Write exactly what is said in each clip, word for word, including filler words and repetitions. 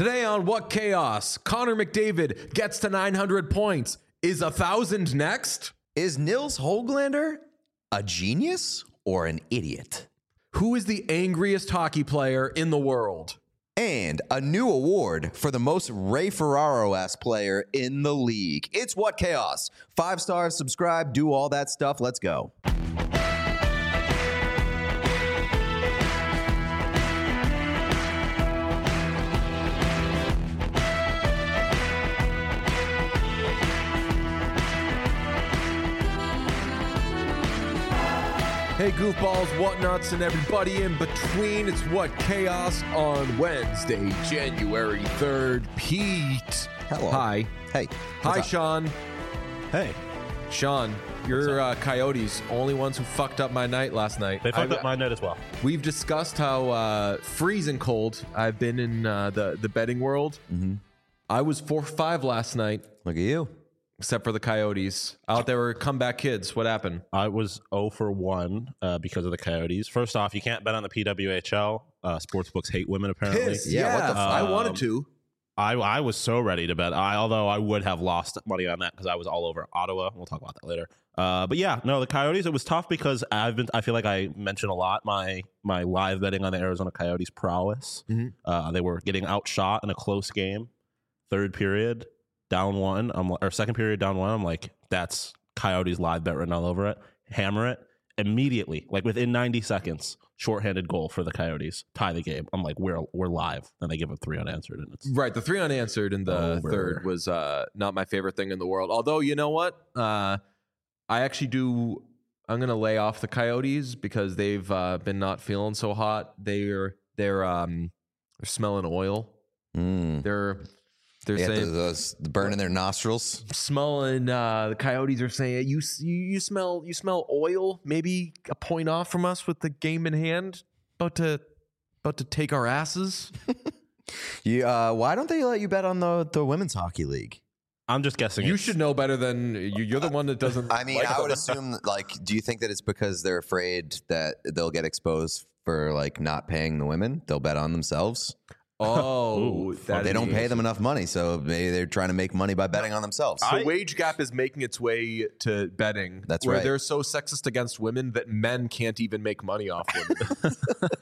Today on What Chaos, Connor McDavid gets to nine hundred points. Is a thousand next? Is Nils Höglander a genius or an idiot? Who is the angriest hockey player in the world? And a new award for the most Ray Ferraro-ass player in the league. It's What Chaos. Five stars, subscribe, do all that stuff. Let's go. Hey, goofballs, whatnots, and everybody in between. It's What Chaos on Wednesday, January third. Pete. Hello. Hi. Hey. Hi, up? Sean. Hey. Sean, your uh, Coyotes, only ones who fucked up my night last night. They fucked I, up my night as well. We've discussed how uh, freezing cold I've been in uh, the, the betting world. Mm-hmm. I was four for five last night. Look at you. Except for the Coyotes. Out there were comeback kids. What happened? I was zero for one uh, because of the Coyotes. First off, you can't bet on the P W H L. Uh, sportsbooks hate women, apparently. Piss, Yeah, yeah. what the fuck? I wanted Um, to. I, I was so ready to bet. I although I would have lost money on that because I was all over Ottawa. We'll talk about that later. Uh, but yeah, no, the Coyotes. It was tough because I've been. I feel like I mentioned a lot my my live betting on the Arizona Coyotes prowess. Mm-hmm. Uh, they were getting outshot in a close game, third period, down one. I'm or second period down one. I'm like, that's Coyotes live bet written all over it. Hammer it immediately, like within ninety seconds. Shorthanded goal for the Coyotes, tie the game. I'm like, we're we're live. Then they give up three unanswered, and it's Right, the three unanswered in the Over. third was uh, not my favorite thing in the world. Although, you know what? Uh, I actually do. I'm gonna lay off the Coyotes because they've uh, been not feeling so hot. They're they're um they're smelling oil. Mm. They're they're They had saying those, those burn in their nostrils. smelling. Uh, the Coyotes are saying you you you smell you smell oil. Maybe a point off from us with the game in hand. About to about to take our asses. You, uh, why don't they let you bet on the, the women's hockey league? I'm just guessing. You it's- should know better than you. You're the one that doesn't. I mean, like I all would that. assume, like, do you think that it's because they're afraid that they'll get exposed for, like, not paying the women? They'll bet on themselves? Oh, Ooh, that They is- don't pay them enough money, so maybe they're trying to make money by betting on themselves. The I- wage gap is making its way to betting. That's where right. they're so sexist against women that men can't even make money off women.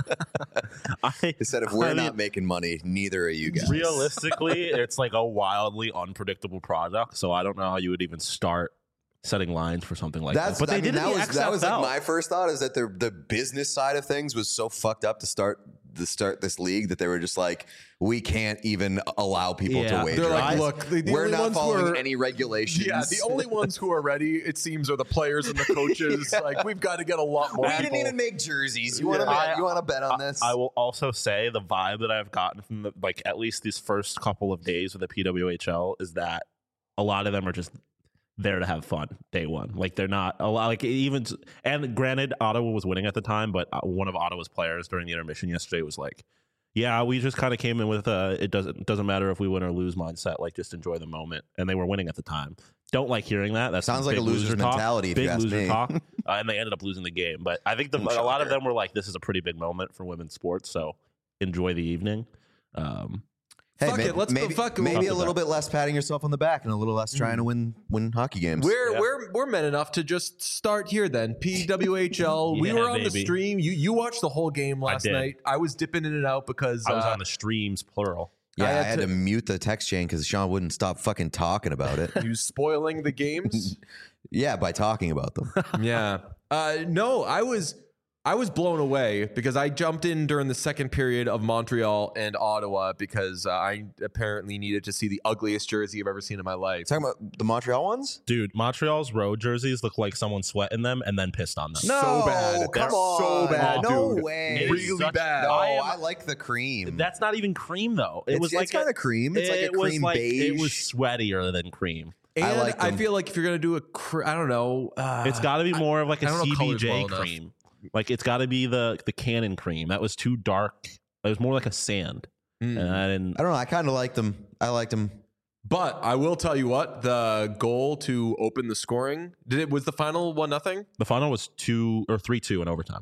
I, They said if we're I mean, not making money, neither are you guys. realistically, it's like a wildly unpredictable product. So I don't know how you would even start setting lines for something like That's that. But they I mean, did it that in the was X F L. that was like my first thought is that the the business side of things was so fucked up to start to start this league that they were just like, we can't even allow people Yeah. to wager. They're like, on this. look, the, the we're only not ones who following are, any regulations. Yeah, the only ones who are ready, it seems, are the players and the coaches. Like, we've got to get a lot more we people. didn't even make jerseys. You want to Yeah. bet? You want to bet on I, this? I will also say the vibe that I've gotten from the, like at least these first couple of days of the P W H L is that a lot of them are just there to have fun day one. Like they're not a lot like even and granted Ottawa was winning at the time, but one of Ottawa's players during the intermission yesterday was like, yeah, we just kind of came in with uh it doesn't it doesn't matter if we win or lose mindset, like just enjoy the moment. And they were winning at the time. Don't like hearing that. That Sounds like a loser's mentality, if Big you ask loser me. talk. Uh, and they ended up losing the game. But I think the, a lot of Shocker. them were like, this is a pretty big moment for women's sports. So enjoy the evening. Um, Hey, Fuck may- it, let's go- maybe, fuck it, maybe we'll- a little bit less patting yourself on the back and a little less trying to win win hockey games. We're Yeah. we're we're men enough to just start here then. P W H L. we Yeah, were on the baby. stream. You you watched the whole game last did. night. I was dipping in and out because I was uh, on the streams, plural. yeah, I I had had, to- to, mute the text chain because Sean wouldn't stop fucking talking about it. you spoiling the games. Yeah, by talking about them. Yeah. Uh, no, I was I was blown away because I jumped in during the second period of Montreal and Ottawa because uh, I apparently needed to see the ugliest jersey I've ever seen in my life. Talking about the Montreal ones? Dude, Montreal's road jerseys look like someone sweat in them and then pissed on them. No. So bad. come They're on. so bad, No dude. way. It is Really such- bad. No, I I, am- like the cream. That's not even cream though. It it's, was like it's kind of cream. It's like a it was cream like- beige. It was sweatier than cream. And I I, like them. feel like if you're gonna do a, cr- I don't know, uh, It's got to be more of like a I don't know C B colors J well enough. cream. Like it's got to be the the Canon cream. That was too dark. It was more like a sand. Mm. And I didn't. I don't know. I kind of liked them. I liked them. But I will tell you what, the goal to open the scoring, did it was the final one nothing? The final was two or three two in overtime.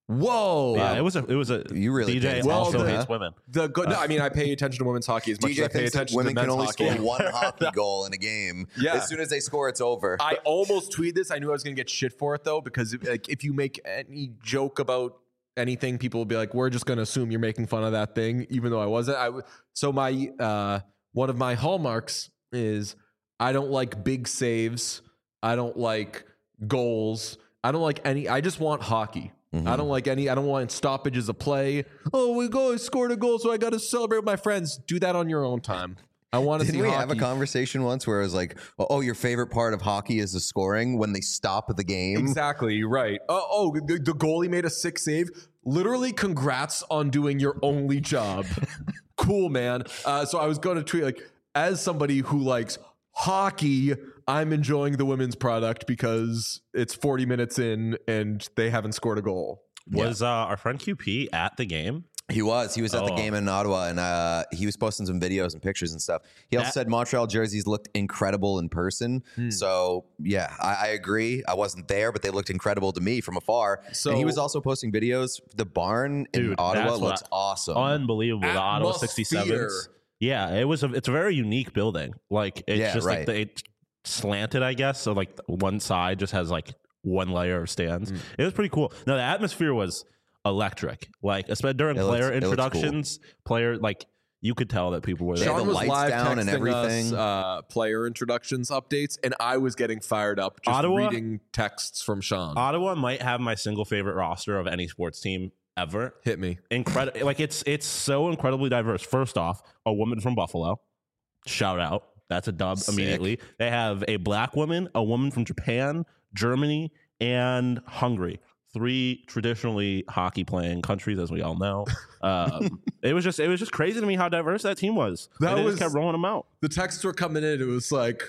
Whoa. Yeah, it was a it was a You really D J paid also attention, hates huh? women. The go- no, I mean, I pay attention to women's hockey as much D J as I pay thinks that attention women to can men's only hockey. score one hockey goal in a game. Yeah. As soon as they score, it's over. I almost tweeted this. I knew I was going to get shit for it though, because if, like, if you make any joke about anything, people will be like, "We're just going to assume you're making fun of that thing," even though I wasn't. I w- so my uh, one of my hallmarks is I don't like big saves. I don't like goals. I don't like any. I just want hockey. Mhm. I don't like any. I don't want stoppages of play. Oh, we go. I scored a goal, so I got to celebrate with my friends. Do that on your own time. I want to see Didn't we hockey. have a conversation once where it was like, oh, your favorite part of hockey is the scoring when they stop the game? Exactly, you're right. Oh, oh the, the goalie made a sick save. Literally, congrats on doing your only job. Cool, man. Uh, so I was going to tweet, like, as somebody who likes hockey, I'm enjoying the women's product because it's forty minutes in and they haven't scored a goal. Was uh, our friend Q P at the game? He was. He was at the Oh. game in Ottawa, and uh, he was posting some videos and pictures and stuff. He also That- said Montreal jerseys looked incredible in person. Hmm. So, yeah, I, I agree. I wasn't there, but they looked incredible to me from afar. So and he was also posting videos. The barn in Dude, Ottawa that's what looks awesome. Unbelievable. The Ottawa Atmosphere. sixty-sevens. Yeah, it was a it's a very unique building. Like it's Yeah, just right. like the, it slanted, I guess. So like one side just has like one layer of stands. Mm. It was pretty cool. No, the atmosphere was electric. Like especially during It looks- player it looks cool. introductions, player like you could tell that people were They there. had Sean the was lights live down and texting everything. us, uh, player introductions updates, and I was getting fired up just Ottawa? reading texts from Sean. Ottawa might have my single favorite roster of any sports team ever. Hit me. Incredible. Like it's it's so incredibly diverse. First off, a woman from Buffalo. Shout out. That's a dub Sick. immediately. They have a black woman, a woman from Japan, Germany, and Hungary. Three traditionally hockey playing countries, as we all know. Um, it was just it was just crazy to me how diverse that team was. That And they was- just kept rolling them out. The texts were coming in. It was like,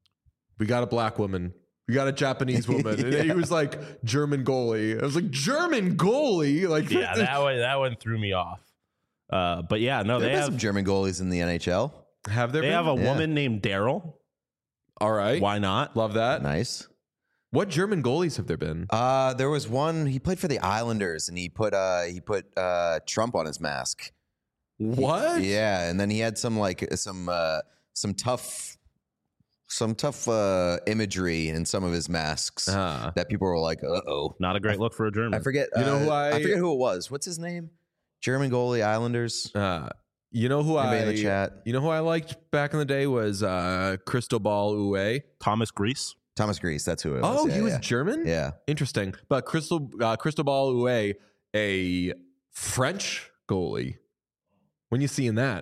we got a black woman. We got a Japanese woman. And he was like, German goalie. I was like, German goalie? Like, Yeah, that one that one threw me off. Uh, but yeah, no, there they have have some German goalies in the N H L. have there they been? have a Yeah. woman named Daryl. All right. Why not? Love that. Nice. What German goalies have there been? Uh, there was one. He played for the Islanders, and he put uh, he put uh, Trump on his mask. What? Yeah, and then he had some like some uh, some tough some tough uh, imagery in some of his masks Ah. that people were like, "Uh oh." Not a great look for a German. I forget. You know uh, who I- I forget who it was. What's his name? German goalie, Islanders. Uh, you know who Anybody I in the chat? You know who I liked back in the day was uh, Cristobal Uwe. Thomas Grease. Thomas Grease. That's who it was. Oh, yeah, he was yeah. German. Yeah. Interesting. But Crystal uh, Cristobal Uwe, a French goalie. When you seeing that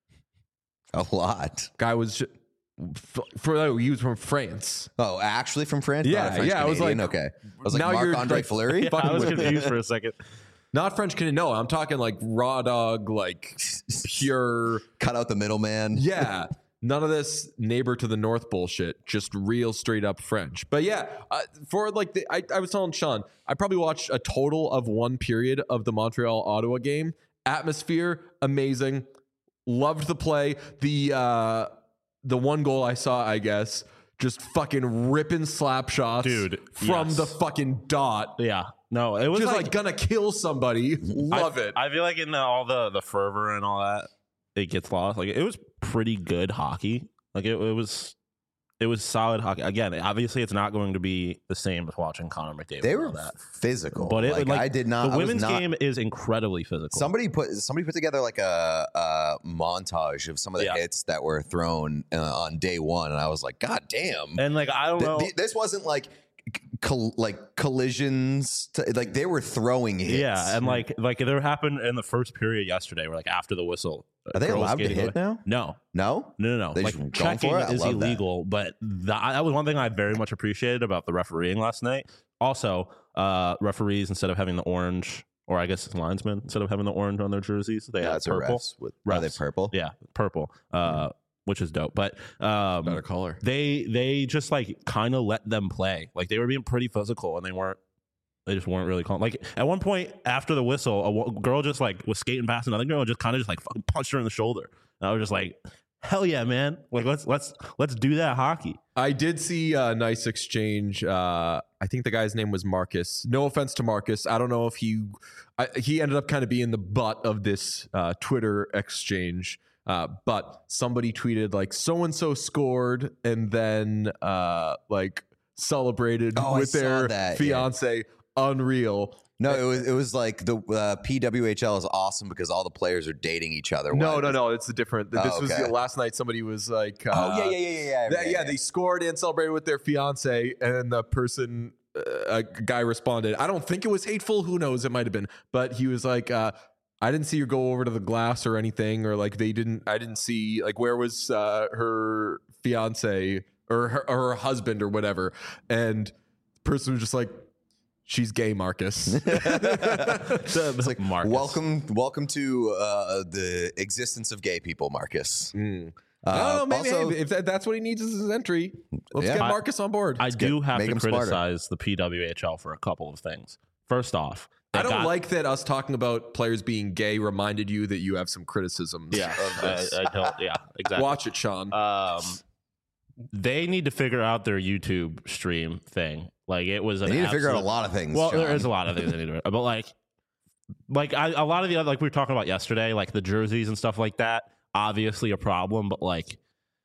A lot. guy was ju- f- for oh, he was from France. Oh, actually from France? Yeah, Not a French yeah, I was Canadian? like- okay. I was like now you're, Marc-Andre like- Fleury? Yeah, Fucking I was with me. confused for a second. Not French Canadian. No, I'm talking like raw dog, like pure. Cut out the middleman. Yeah. None of this neighbor to the north bullshit. Just real straight up French. But yeah, uh, for like the, I, I was telling Sean, I probably watched a total of one period of the Montreal Ottawa game. Atmosphere amazing. Loved the play. The uh, the one goal I saw, I guess, just fucking ripping slap shots, Dude, from yes. the fucking dot. Yeah. No, it was Just like, like, gonna kill somebody. Love I, it. I feel like in the, all the the fervor and all that, it gets lost. Like it was pretty good hockey. Like it, it was, it was solid hockey. Again, obviously, it's not going to be the same as watching Connor McDavid. They and were all that. physical. But it like, like I did not. The I was women's not- game is incredibly physical. Somebody put somebody put together like a, a montage of some of the Yeah. hits that were thrown uh, on day one, and I was like, God damn! and like I don't Th- know. th- this wasn't like col- like collisions. To, like they were throwing hits. Yeah, and like like there happened in the first period yesterday, where like after the whistle, Are they girls allowed to skating hit away- now? No, No. no, no, no. They Like just going checking for it? I is love that. illegal, but that, that was one thing I very much appreciated about the refereeing last night. Also, uh, referees instead of having the orange, or I guess it's linesmen instead of having the orange on their jerseys, they Yeah, have it's a purple. refs with are they Refs. purple? Yeah, purple, uh, which is dope. But um, Better color. they they just like kind of let them play. Like they were being pretty physical, and they weren't. They just weren't really calm. Like at one point after the whistle, a wo- girl just like was skating past another girl and just kind of just like fucking punched her in the shoulder. And I was just like, hell yeah, man. Like let's let's let's do that hockey. I did see a nice exchange. Uh, I think the guy's name was Marcus. No offense to Marcus. I don't know if he I, he ended up kind of being the butt of this uh, Twitter exchange. Uh, but somebody tweeted like so and so scored and then uh, like celebrated Oh, I with saw their that, fiance. Unreal. No, it was it was like the uh, P W H L is awesome because all the players are dating each other. No, Why- no, no. It's a different. This Oh, was okay. the, last night. Somebody was like, uh, Oh yeah, yeah, yeah, yeah, yeah. That- yeah, they scored and celebrated with their fiance, and the person, uh, a guy responded. I don't think it was hateful. Who knows? It might have been, but he was like, uh, "I didn't see her go over to the glass or anything, or like they didn't. I didn't see like where was uh, her fiance or her, or her husband or whatever." And the person was just like, "She's gay, Marcus." It's like Marcus. welcome, welcome to uh, the existence of gay people, Marcus. Mm. Uh, I don't know, maybe also- hey, if that, that's what he needs is his entry, let's Yeah. get I- Marcus on board. I do have Make to 'em smarter. criticize the P W H L for a couple of things. First off, they I don't got- like that us talking about players being gay reminded you that you have some criticisms Yeah, of this. I, I don't. Yeah, exactly. Watch it, Sean. Um, they need to figure out their YouTube stream thing. Like it was. An They need to figure out a absolute- lot of things. Well, there John. is a lot of things they need to, but like, like I, a lot of the other, like we were talking about yesterday, like the jerseys and stuff like that. Obviously a problem, but like,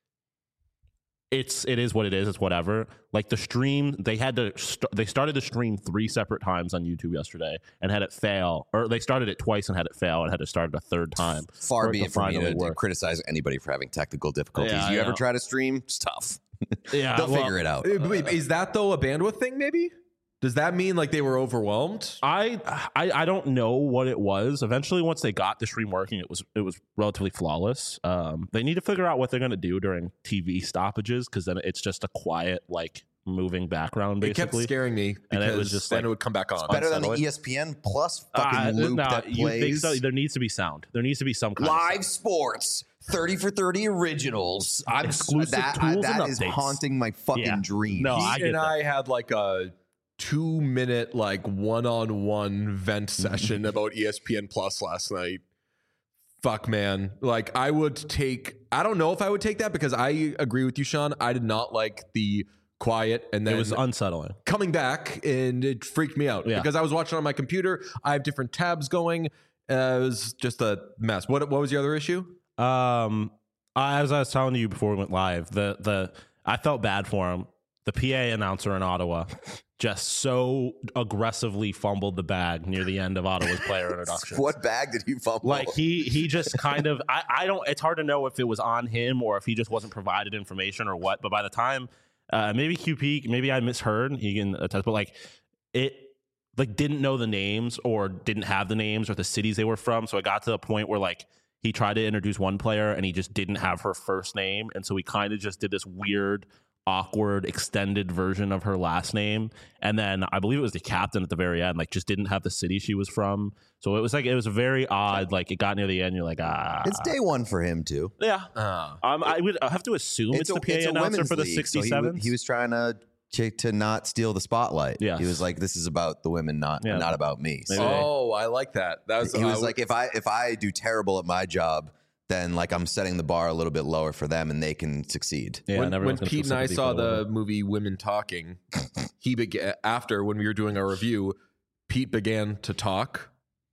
it's it is what it is. It's whatever. Like the stream, they had to. St- they started to stream three separate times on YouTube yesterday and had it fail, or they started it twice and had it fail and had to start it a third time. Far for it be to it from me finally to, to work. criticize anybody for having technical difficulties. Yeah, you I ever know. try to stream? It's tough. Yeah, They'll well, figure it out. Uh, wait, is that though a bandwidth thing? Maybe does that mean like they were overwhelmed? I, I I don't know what it was. Eventually, once they got the stream working, it was it was relatively flawless. Um, they need to figure out what they're going to do during T V stoppages because then it's just a quiet, like moving background. It kept Basically, scaring me And because it was just then like- it would come back on. Better than the unsettling. E S P N Plus fucking Uh, loop no, that you think plays. so? There needs to be sound. There needs to be some kind Live of sound. sports, thirty for thirty originals. I'm Exclusive that, tools I, that and is updates. haunting my fucking Yeah. dreams. No, He I get and that. I had like a two minute like one on one vent session about E S P N Plus last night. Fuck, man. Like I would take. I don't know if I would take that because I agree with you, Sean. I did not like the quiet and then It was unsettling. coming back and it freaked me out Yeah. because I was watching on my computer. I have different tabs going. Uh, it was just a mess. What what was your other issue? Um, I- as I was telling you before we went live, the the I felt bad for him. The P A announcer in Ottawa just so aggressively fumbled the bag near the end of Ottawa's player introduction. What bag did he fumble? Like he he just kind of I, I don't it's hard to know if it was on him or if he just wasn't provided information or what. But by the time uh, maybe Q P maybe I misheard he can attest, but like it like didn't know the names or didn't have the names or the cities they were from. So it got to the point where like he tried to introduce one player and he just didn't have her first name, and so he kind of just did this weird awkward extended version of her last name, and then I believe it was the captain at the very end like just didn't have the city she was from. So it was like it was very odd. Like it got near the end, you're like ah it's day one for him too. yeah Uh, um, I would I have to assume it's, a, the P A it's a announcer women's for the league, so he, sixty-sevens. wa- he was trying to to, to not steal the spotlight. Yes. He was like, "This is about the women, not Yeah. not about me." Maybe So they- oh, I like that. That was he I was would- like, "If I if I do terrible at my job, then like I'm setting the bar a little bit lower for them, and they can succeed." yeah, when, and when everyone's gonna Pete feel and I sympathy saw for the women. movie Women Talking, he began after when we were doing our review. Pete began to talk,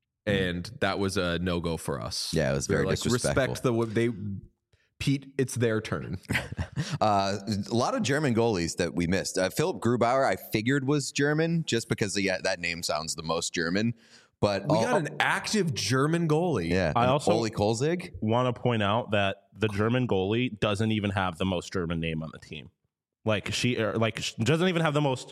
and that was a no go for us. Yeah, it was We were very like, disrespectful. respect the wo- they. Pete, it's their turn. Uh, a lot of German goalies that we missed. Uh, Philip Grubauer, I figured was German just because yeah, that name sounds the most German. But We all- got an active German goalie. yeah, I and also- Ole Kolzig. want to point out that the German goalie doesn't even have the most German name on the team. Like she, or like she doesn't even have the most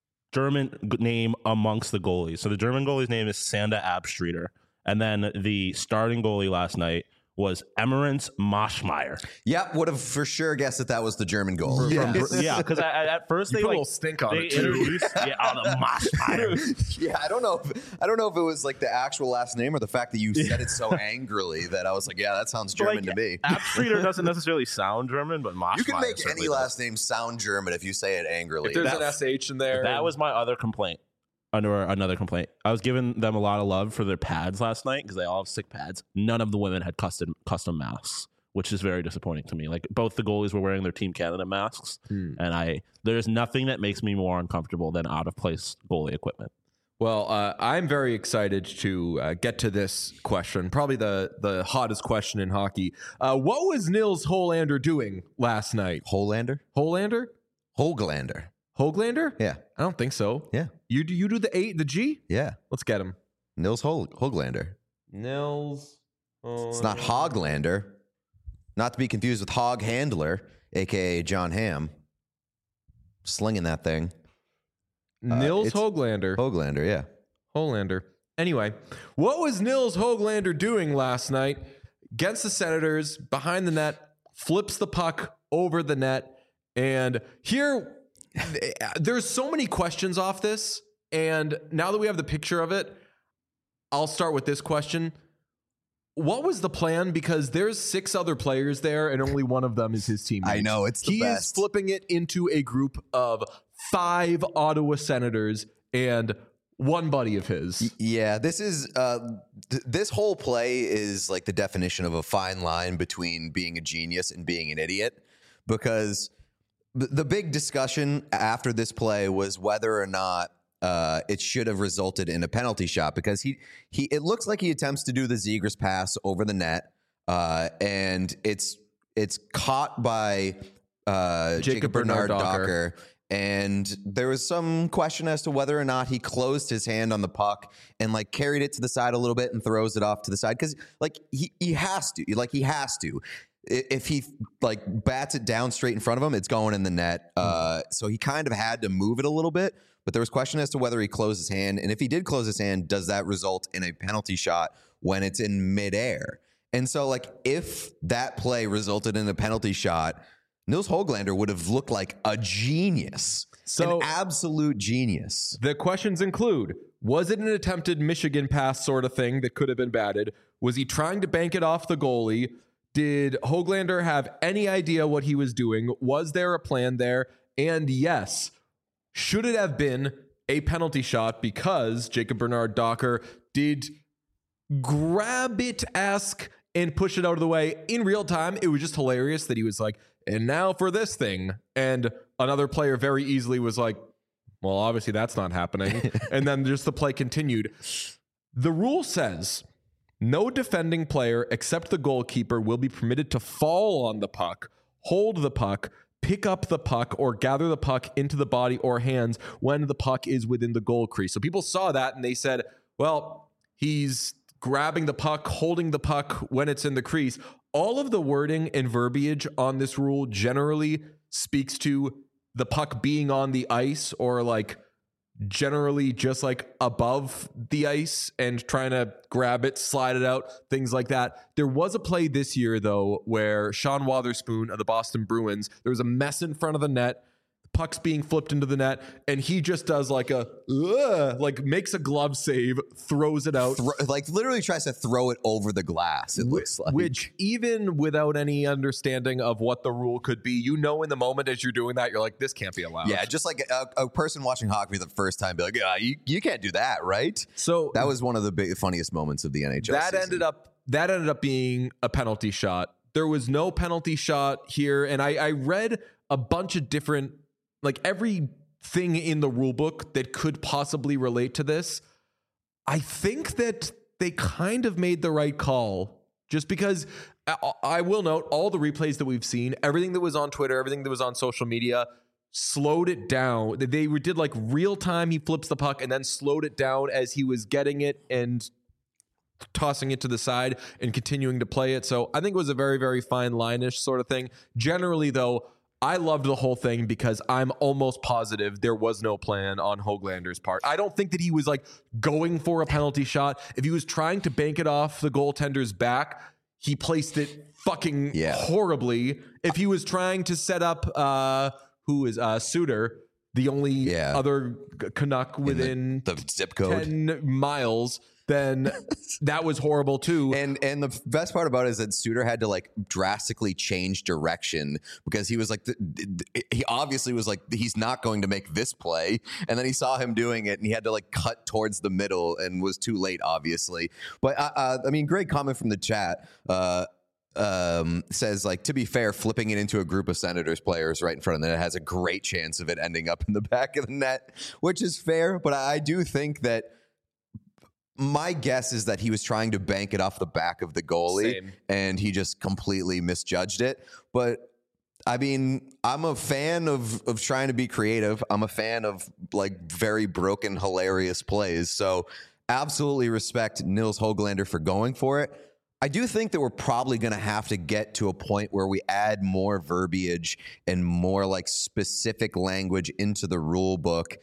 German g- name amongst the goalies. So the German goalie's name is Sanda Abstreiter, and then the starting goalie last night was Emmerance Moschmeyer. Yep, would have for sure guessed that that was the German goal. Yeah. Yeah, because at first You they put a like little stink on they it too. introduced yeah, oh, the Moschmeyer. Yeah, I don't know. If, I don't know if it was like the actual last name or the fact that you said it so angrily that I was like, yeah, that sounds German Like, to me. Abstreiter doesn't necessarily sound German, but Moschmeyer You can make certainly any does. last name sound German if you say it angrily. If there's That- an S H in there, That was my other complaint. Under another complaint, I was giving them a lot of love for their pads last night because they all have sick pads. None of the women had custom custom masks, which is very disappointing to me. Like both the goalies were wearing their Team Canada masks, Hmm. and I there's nothing that makes me more uncomfortable than out of place goalie equipment. Well, uh, I'm very excited to uh, get to this question, probably the, the hottest question in hockey. Uh, what was Nils Holander doing last night? Holander? Holander? Holglander. Hoglander? Yeah. I don't think so. Yeah. You do you do the eight, the G? Yeah. Let's get him. Nils Hol- Hoglander. Nils. It's not Hoglander. Not to be confused with Hog Handler, a k a. John Hamm. Slinging that thing. Nils it's- Hoglander. Hoglander, yeah. Holander. Anyway, what was Nils Hoglander doing last night against the Senators behind the net, flips the puck over the net, and here there's so many questions off this, and now that we have the picture of it, I'll start with this question. What was the plan? Because there's six other players there, and only one of them is his teammate. I know, it's the he best. is flipping it into a group of five Ottawa Senators and one buddy of his. Yeah, this is uh, th- this whole play is like the definition of a fine line between being a genius and being an idiot, because th- the big discussion after this play was whether or not uh, it should have resulted in a penalty shot, because he he it looks like he attempts to do the Zegras pass over the net, uh, and it's it's caught by uh, Jacob, Jacob Bernard, Bernard Docker. Docker. And there was some question as to whether or not he closed his hand on the puck and like carried it to the side a little bit and throws it off to the side, because like he he has to like he has to. I- If he like bats it down straight in front of him, it's going in the net. Uh, so he kind of had to move it a little bit. But there was question as to whether he closed his hand, and if he did close his hand, does that result in a penalty shot when it's in midair? And so like if that play resulted in a penalty shot, Nils Hoglander would have looked like a genius, So- an absolute genius. The questions include, was it an attempted Michigan pass sort of thing that could have been batted? Was he trying to bank it off the goalie? Did Hoglander have any idea what he was doing? Was there a plan there? And yes, should it have been a penalty shot because Jacob Bernard Docker did grab it, ask, and push it out of the way in real time? It was just hilarious that he was like, and now for this thing. And another player very easily was like, well, obviously that's not happening. And then just the play continued. The rule says no defending player except the goalkeeper will be permitted to fall on the puck, hold the puck, pick up the puck, or gather the puck into the body or hands when the puck is within the goal crease. So people saw that and they said, well, he's grabbing the puck, holding the puck when it's in the crease. All of the wording and verbiage on this rule generally speaks to the puck being on the ice, or like generally just like above the ice and trying to grab it, slide it out, things like that. There was a play this year, though, where Sean Wotherspoon of the Boston Bruins, there was a mess in front of the net, puck's being flipped into the net, and he just does like a, ugh, like makes a glove save, throws it out. Thro- like literally tries to throw it over the glass, it looks like. Which, even without any understanding of what the rule could be, you know, in the moment as you're doing that, you're like, this can't be allowed. Yeah, just like a, a person watching hockey for the first time be like, yeah, you, you can't do that, right? So That was one of the big, funniest moments of the N H L that season. ended up that ended up being a penalty shot. There was no penalty shot here, and I, I read a bunch of different, like everything in the rule book that could possibly relate to this. I think that they kind of made the right call, just because I, I will note all the replays that we've seen, everything that was on Twitter, everything that was on social media, slowed it down. They did like real time. He flips the puck and then slowed it down as he was getting it and tossing it to the side and continuing to play it. So I think it was a very, very fine line-ish sort of thing. Generally, though, I loved the whole thing because I'm almost positive there was no plan on Hoglander's part. I don't think that he was like going for a penalty shot. If he was trying to bank it off the goaltender's back, he placed it fucking Yeah. horribly. If he was trying to set up, uh, who is uh, Suter, the only Yeah. other Canuck within The zip code. ten miles, then that was horrible too. And and the best part about it is that Suter had to like drastically change direction, because he was like, the, the- he obviously was like, he's not going to make this play. And then he saw him doing it and he had to like cut towards the middle and was too late, obviously. But uh, uh, I mean, great comment from the chat. Uh, um, says, like, to be fair, flipping it into a group of Senators players right in front of the net has a great chance of it ending up in the back of the net, which is fair. But I do think that my guess is that he was trying to bank it off the back of the goalie, Same. and he just completely misjudged it. But I mean, I'm a fan of of trying to be creative. I'm a fan of like very broken, hilarious plays. So absolutely respect Nils Höglander for going for it. I do think that we're probably going to have to get to a point where we add more verbiage and more like specific language into the rule book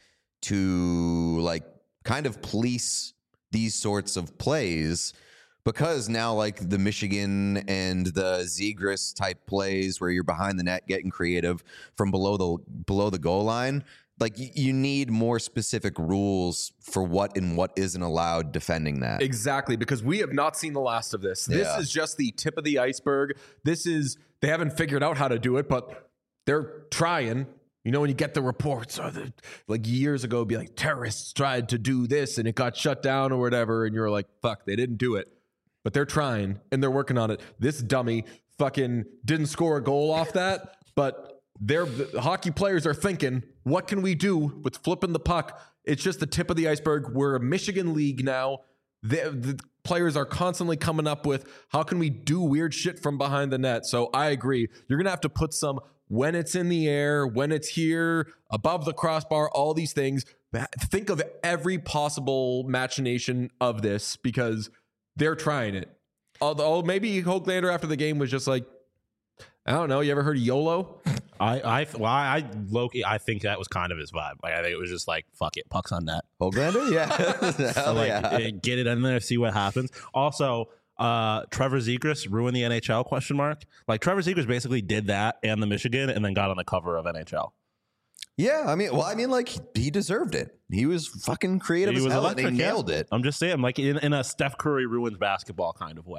to like kind of police these sorts of plays, because now like the Michigan and the Zegras type plays where you're behind the net getting creative from below the below the goal line, like y- you need more specific rules for what and what isn't allowed defending that. Exactly, because we have not seen the last of this. This Yeah. is just the tip of the iceberg. This is, they haven't figured out how to do it, but they're trying. You know, when you get the reports, or the, like years ago, it'd be like terrorists tried to do this and it got shut down or whatever. And you're like, fuck, they didn't do it. But they're trying and they're working on it. This dummy fucking didn't score a goal off that, but they're, the hockey players are thinking, what can we do with flipping the puck? It's just the tip of the iceberg. We're a Michigan league now. The, the players are constantly coming up with, how can we do weird shit from behind the net? So I agree. You're going to have to put some when it's in the air, when it's here, above the crossbar, all these things. Think of every possible machination of this because they're trying it. Although maybe Höglander after the game was just like, I don't know. You ever heard of YOLO? I, I, well, I, Loki, I think that was kind of his vibe. Like, I think it was just like, fuck it, puck's on net. Höglander? Yeah. Hell like, yeah. eh, get it in there, see what happens. Also, uh, Trevor Zegras ruined the N H L question mark. Like, Trevor Zegras basically did that and the Michigan and then got on the cover of N H L. Yeah, I mean, well, I mean, like, he deserved it. He was fucking creative He as was hell, and he electric, yeah. nailed it. I'm just saying, like, in, in a Steph Curry ruins basketball kind of way.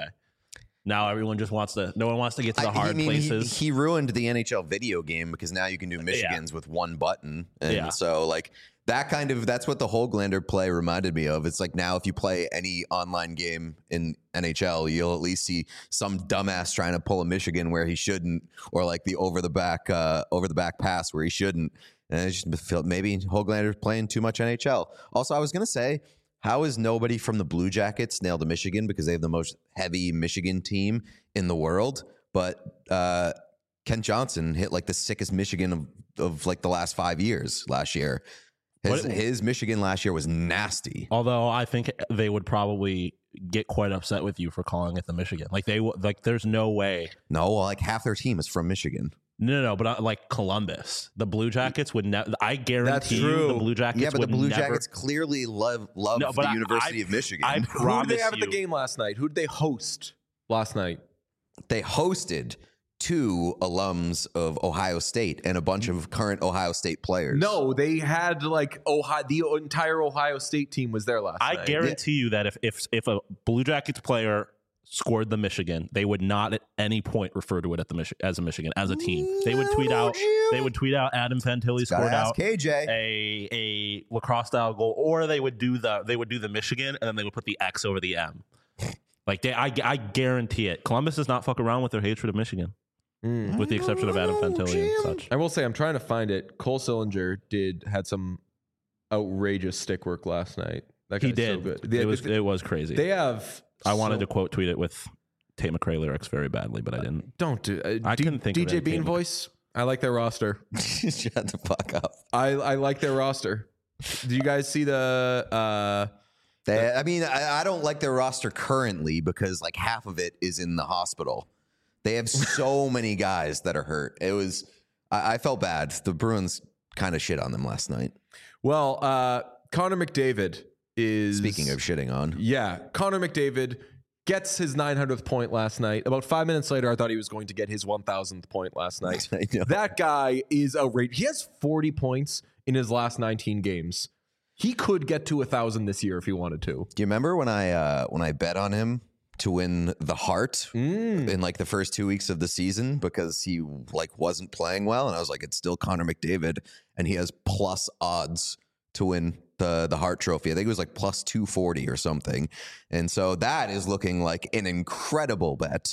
Now everyone just wants to, no one wants to get to the I- hard I mean, he- places. He, ruined the N H L video game because now you can do Michigans with one button. And Yeah. so, like, that kind of, that's what the Höglander play reminded me of. It's like now if you play any online game in N H L, you'll at least see some dumbass trying to pull a Michigan where he shouldn't, or like the over the back, uh, over the back pass where he shouldn't. And I just felt maybe Höglander's playing too much N H L. Also, I was going to say, how is nobody from the Blue Jackets nailed to Michigan because they have the most heavy Michigan team in the world? But uh, Kent Johnson hit like the sickest Michigan of, of like the last five years last year. His, What- his Michigan last year was nasty. Although I think they would probably get quite upset with you for calling it the Michigan. Like they w- like, there's no way. No, like half their team is from Michigan. No, no, no. But uh, like Columbus, the Blue Jackets would never. I guarantee you, true. the Blue Jackets. Yeah, but the would Blue never- Jackets clearly love love No, but the I- University I- of Michigan. I Who did promise they have at the you- game last night? Who did they host last night? They hosted two alums of Ohio State and a bunch of current Ohio State players. No, they had like Ohio. The entire Ohio State team was there last I night. guarantee you that if if if a Blue Jackets player scored the Michigan, they would not at any point refer to it at the Mich- as a Michigan as a team. They would tweet No, out. Jim. They would tweet out Adam Fantilli Gotta scored ask out K J. a a lacrosse style goal, or they would do the they would do the Michigan and then they would put the X over the M. Like they, I, I guarantee it. Columbus does not fuck around with their hatred of Michigan, Mm. with the exception of Adam Fantilli and such. I will say, I'm trying to find it. Cole Sillinger did had some outrageous stick work last night. That He guy's so did. good. They, it was they, it was crazy. they have. I wanted so- to quote tweet it with Tate McRae lyrics very badly, but I didn't. Don't do. Uh, I D- couldn't think of D J any Bean Tate voice. I like their roster. Shut the fuck up. I I like their roster. Do you guys see the? Uh, They, I mean, I, I don't like their roster currently because like half of it is in the hospital. They have so many guys that are hurt. It was, I, I felt bad. The Bruins kind of shit on them last night. well, uh, Connor McDavid is Speaking of shitting on, Yeah, Connor McDavid gets his nine hundredth point last night. About five minutes later, I thought he was going to get his one thousandth point last night. I know. That guy is outrageous. He has forty points in his last nineteen games. He could get to a thousand this year if he wanted to. Do you remember when I uh, when I bet on him to win the Hart Mm. in like the first two weeks of the season because he like wasn't playing well, and I was like, it's still Connor McDavid, and he has plus odds to win the the Hart Trophy. I think it was like plus two forty or something, and so that is looking like an incredible bet.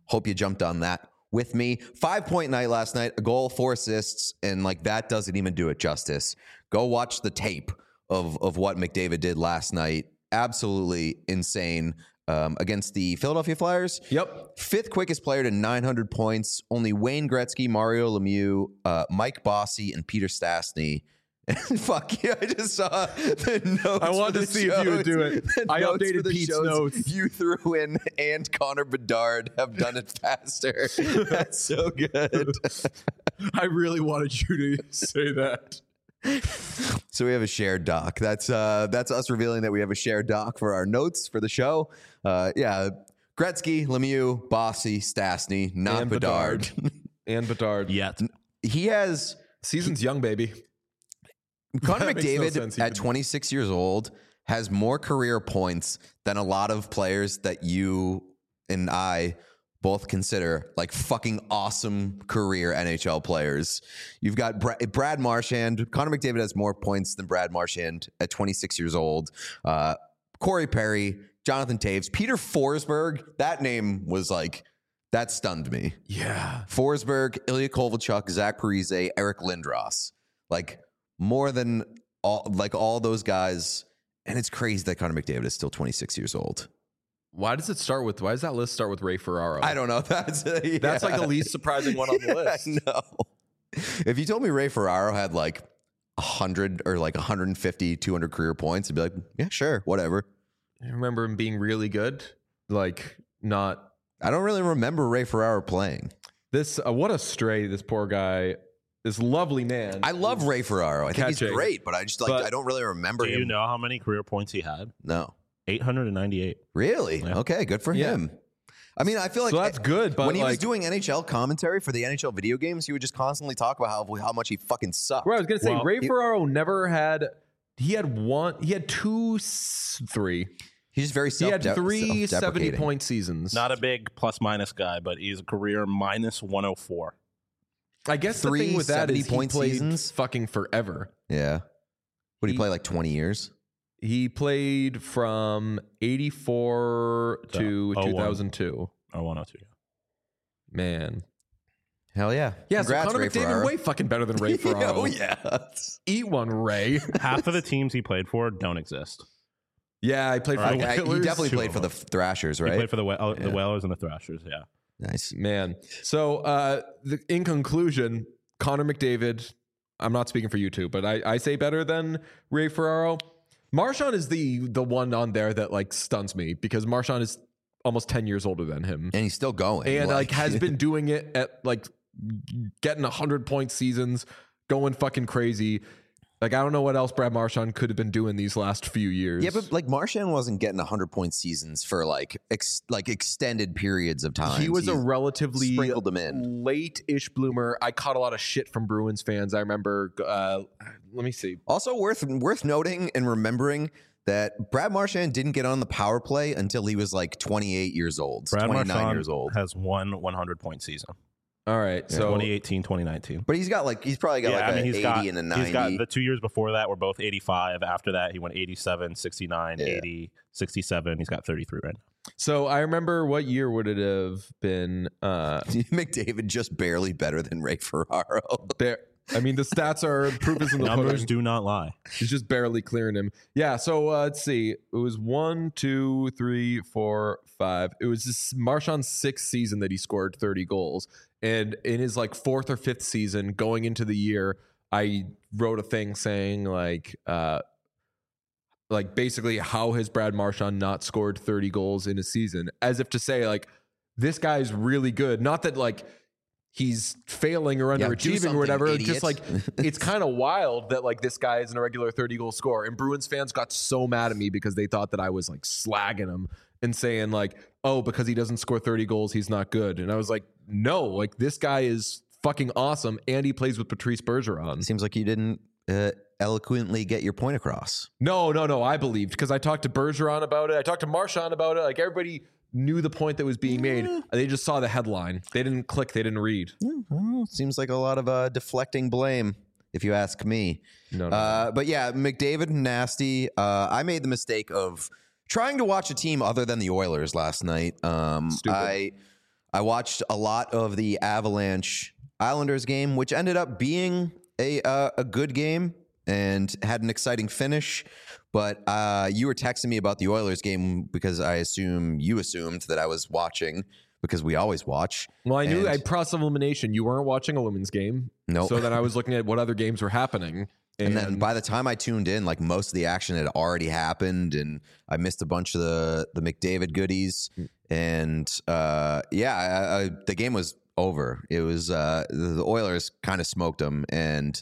Hope you jumped on that with me. Five point night last night, a goal, four assists, and like that doesn't even do it justice. Go watch the tape of of what McDavid did last night. Absolutely insane. Um, against the Philadelphia Flyers. Yep. Fifth quickest player to nine hundred points. Only Wayne Gretzky, Mario Lemieux, uh, Mike Bossy, and Peter Stastny. Fuck yeah, I just saw the notes. I wanted for the to see if you would do it. The I notes for updated the Pete's shows notes. You threw in, and Connor Bedard have done it faster. That's so good. I really wanted you to say that. So we have a shared doc. That's uh, that's us revealing that we have a shared doc for our notes for the show. Uh, yeah, Gretzky, Lemieux, Bossy, Stastny, not And Bedard. Bedard. And Bedard. Yet. He has Season's young, baby. Connor That makes no McDavid sense. He at could- twenty-six years old has more career points than a lot of players that you and I both consider like fucking awesome career N H L players. You've got Bra- Brad Marchand. Connor McDavid has more points than Brad Marchand at twenty-six years old. Uh, Corey Perry, Jonathan Taves, Peter Forsberg. That name was like, that stunned me. Yeah. Forsberg, Ilya Kovalchuk, Zach Parise, Eric Lindros. Like more than all, like all those guys. And it's crazy that Connor McDavid is still twenty-six years old. Why does it start with, why does that list start with Ray Ferraro? I don't know. That's yeah. That's like the least surprising one on the list. No. If you told me Ray Ferraro had like one hundred or like one hundred fifty, two hundred career points, I'd be like, yeah, sure, whatever. I remember him being really good. Like, not I don't really remember Ray Ferraro playing. this. Uh, what a stray, this poor guy, this lovely man. I love Ray Ferraro. I think he's Catching. great, but I just like, But- I don't really remember Do him. you know how many career points he had? No. eight hundred ninety-eight. Really? Yeah. Okay, good for Yeah. him. I mean, I feel like so that's good, but when he was like, doing N H L commentary for the N H L video games, he would just constantly talk about how how much he fucking sucked. Right, I was gonna say Well, Ray he- Ferraro never had. He had one. He had two, s- three. He's just very He self had three self-deprecating. seventy-point seasons. Not a big plus minus guy, but he's a career minus one oh four. I guess the three thing with that is he seventy-point played seasons? fucking forever. Yeah. Would he, He- play like twenty years? He played from eighty-four So, to oh one. two thousand two. Or one oh two. Man. Hell yeah. Yeah, Congrats, so Connor Ray McDavid Ferraro. way fucking better than Ray Ferraro. Oh yeah. Eat one, Ray. Half of the teams he played for don't exist. Yeah, I played for Right. the I- I- he Whalers. definitely two played of for the them. Thrashers, He right? played for the Wha- oh, the Yeah. Whalers and the Thrashers, yeah. Nice. Man. So, uh, the, in conclusion, Connor McDavid, I'm not speaking for you two, but I, I say better than Ray Ferraro. Marchand is the the one on there that like stuns me because Marchand is almost ten years older than him. And he's still going. And like has been doing it at like getting one hundred point seasons, going fucking crazy. Like, I don't know what else Brad Marchand could have been doing these last few years. Yeah, but like Marchand wasn't getting one hundred point seasons for like ex- like extended periods of time. he was a relatively sprinkled them in. late-ish bloomer. I caught a lot of shit from Bruins fans. I remember, uh, let me see. Also worth worth noting and remembering that Brad Marchand didn't get on the power play until he was like twenty-eight years old, Brad twenty-nine Marchand years old. has one one hundred point season. All right, so twenty eighteen, twenty nineteen. But he's got like he's probably got Yeah, like I mean, an he's eighty got, and a he's got ninety. the two years before that were both eighty-five. After that, he went eighty-seven, sixty-nine, Yeah. eighty, sixty-seven. He's got thirty-three right now. so I remember what year would it have been? Uh, McDavid just barely better than Ray Ferraro. there. I mean, the stats are proof is in the Numbers pudding. do not lie. He's just barely clearing him. Yeah. So uh, let's see. It was one, two, three, four, five. It was this Marchand's sixth season that he scored thirty goals. And in his like fourth or fifth season going into the year, I wrote a thing saying like, uh, like basically how has Brad Marchand not scored thirty goals in a season? As if to say like, this guy's really good. Not that like he's failing or Yeah, do underachieving something, or whatever. idiot. Just like it's kind of wild that like this guy isn't a regular thirty goal scorer. And Bruins fans got so mad at me because they thought that I was like slagging him and saying like, oh, because he doesn't score thirty goals, he's not good. And I was like, no, like this guy is fucking awesome. And he plays with Patrice Bergeron. Seems like you didn't uh, eloquently get your point across. No, no, no. I believed because I talked to Bergeron about it. I talked to Marchand about it. Like everybody knew the point that was being made. They just saw the headline. They didn't click. They didn't read. Well, seems like a lot of uh, deflecting blame, if you ask me. No, no. Uh, but yeah, McDavid, nasty. Uh, I made the mistake of trying to watch a team other than the Oilers last night. Um, Stupid. I I watched a lot of the Avalanche Islanders game, which ended up being a uh, a good game and had an exciting finish. But uh, you were texting me about the Oilers game because I assume you assumed that I was watching because we always watch. Well, I knew And- I process of elimination. You weren't watching a women's game. Nope. So then I was looking at what other games were happening. And then by the time I tuned in, like most of the action had already happened, and I missed a bunch of the the McDavid goodies. And uh, yeah, I, I, the game was over. It was uh, the Oilers kind of smoked them, and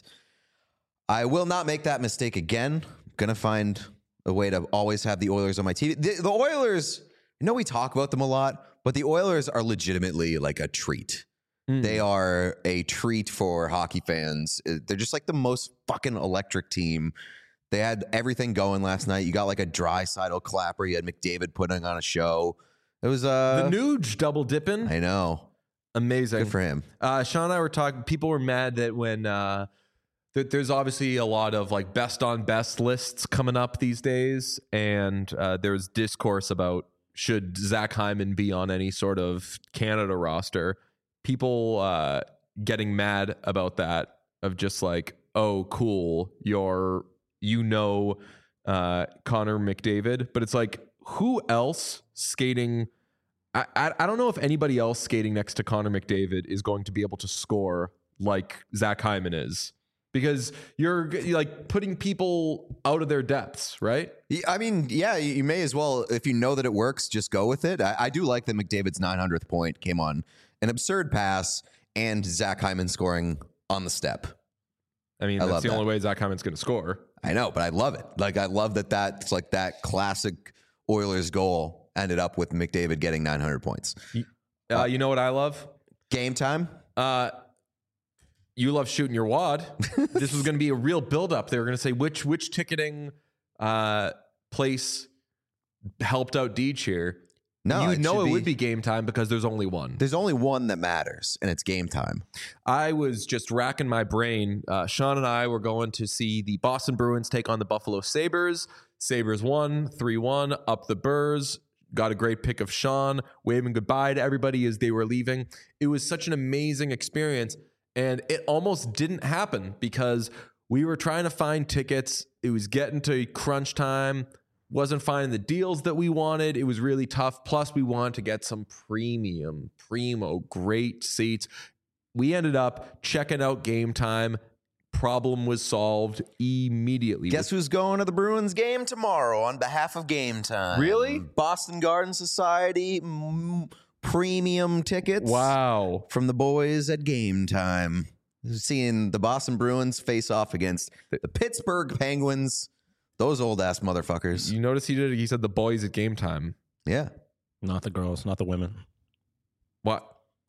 I will not make that mistake again. I'm gonna find a way to always have the Oilers on my T V. The, the Oilers, I know we talk about them a lot, but the Oilers are legitimately like a treat. Mm. They are a treat for hockey fans. They're just like the most fucking electric team. They had everything going last night. You got like a Draisaitl clapper. You had McDavid putting on a show. It was uh, the Nuge double dipping. I know. Amazing. Good for him. Uh, Sean and I were talking. People were mad that when uh, th- there's obviously a lot of like best on best lists coming up these days, and uh, there's discourse about should Zach Hyman be on any sort of Canada roster. People uh, getting mad about that of just like, oh, cool, you're you know uh, Connor McDavid, but it's like who else skating? I, I I don't know if anybody else skating next to Connor McDavid is going to be able to score like Zach Hyman is, because you're, you're like putting people out of their depths, right? I mean, yeah, you may as well, if you know that it works, just go with it. I, I do like that McDavid's nine hundredth point came on an absurd pass and Zach Hyman scoring on the step. I mean, I that's love the that. only way Zach Hyman's going to score. I know, but I love it. Like, I love that that's like that classic Oilers goal ended up with McDavid getting nine hundred points. Uh, you know what I love? Game time. Uh, you love shooting your wad. This was going to be a real buildup. They were going to say which which ticketing uh, place helped out Deej here. No, you it know should it be- would be game time because there's only one. There's only one that matters, and it's game time. I was just racking my brain. Uh, Sean and I were going to see the Boston Bruins take on the Buffalo Sabres. Sabres won three one up the Burrs. Got a great pick of Sean, waving goodbye to everybody as they were leaving. It was such an amazing experience, and it almost didn't happen because we were trying to find tickets. It was getting to crunch time. Wasn't finding the deals that we wanted. It was really tough. Plus, we wanted to get some premium, primo, great seats. We ended up checking out Game Time. Problem was solved immediately. Guess who's going to the Bruins game tomorrow on behalf of Game Time? Really? Boston Garden Society mm, premium tickets. Wow. From the boys at Game Time. Seeing the Boston Bruins face off against the Pittsburgh Penguins. Those old ass motherfuckers. You notice he did. He said the boys at Game Time. Yeah. Not the girls, not the women. What?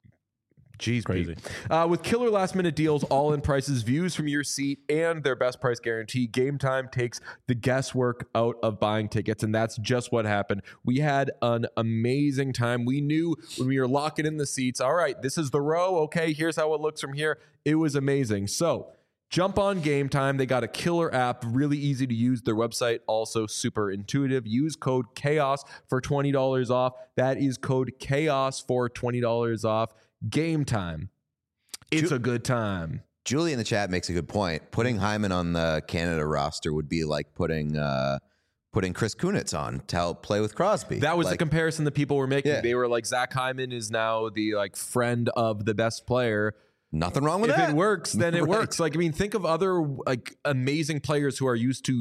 Jeez, Crazy. Pete. Uh, with killer last minute deals, all in prices, views from your seat, and their best price guarantee, Game Time takes the guesswork out of buying tickets. And that's just what happened. We had an amazing time. We knew when we were locking in the seats, all right, this is the row. Okay, here's how it looks from here. It was amazing. So jump on Game Time. They got a killer app, really easy to use. Their website also super intuitive. Use code CHAOS for twenty dollars off. That is code CHAOS for twenty dollars off. Game Time. It's Ju- a good time. Julie in the chat makes a good point. Putting Hyman on the Canada roster would be like putting uh, putting Chris Kunitz on to help play with Crosby. That was the like, comparison that people were making. Yeah. They were like, Zach Hyman is now the like friend of the best player. nothing wrong with If that. it works, then it Right. works. Like, I mean, think of other like amazing players who are used to,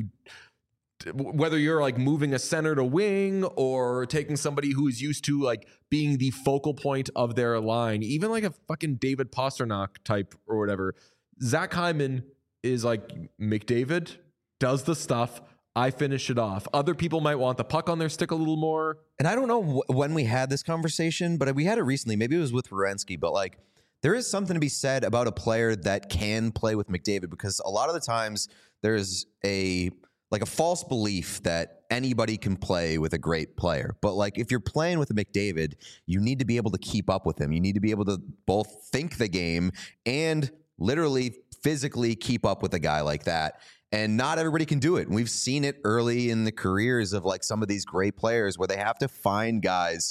whether you're like moving a center to wing or taking somebody who is used to like being the focal point of their line, even like a fucking David Pasternak type or whatever. Zach Hyman is like McDavid, does the stuff. I finish it off. Other people might want the puck on their stick a little more. And I don't know wh- when we had this conversation, but we had it recently. Maybe it was with Werenski, but like there is something to be said about a player that can play with McDavid, because a lot of the times there's a like a false belief that anybody can play with a great player. But like if you're playing with a McDavid, you need to be able to keep up with him. You need to be able to both think the game and literally physically keep up with a guy like that. And not everybody can do it. And we've seen it early in the careers of like some of these great players where they have to find guys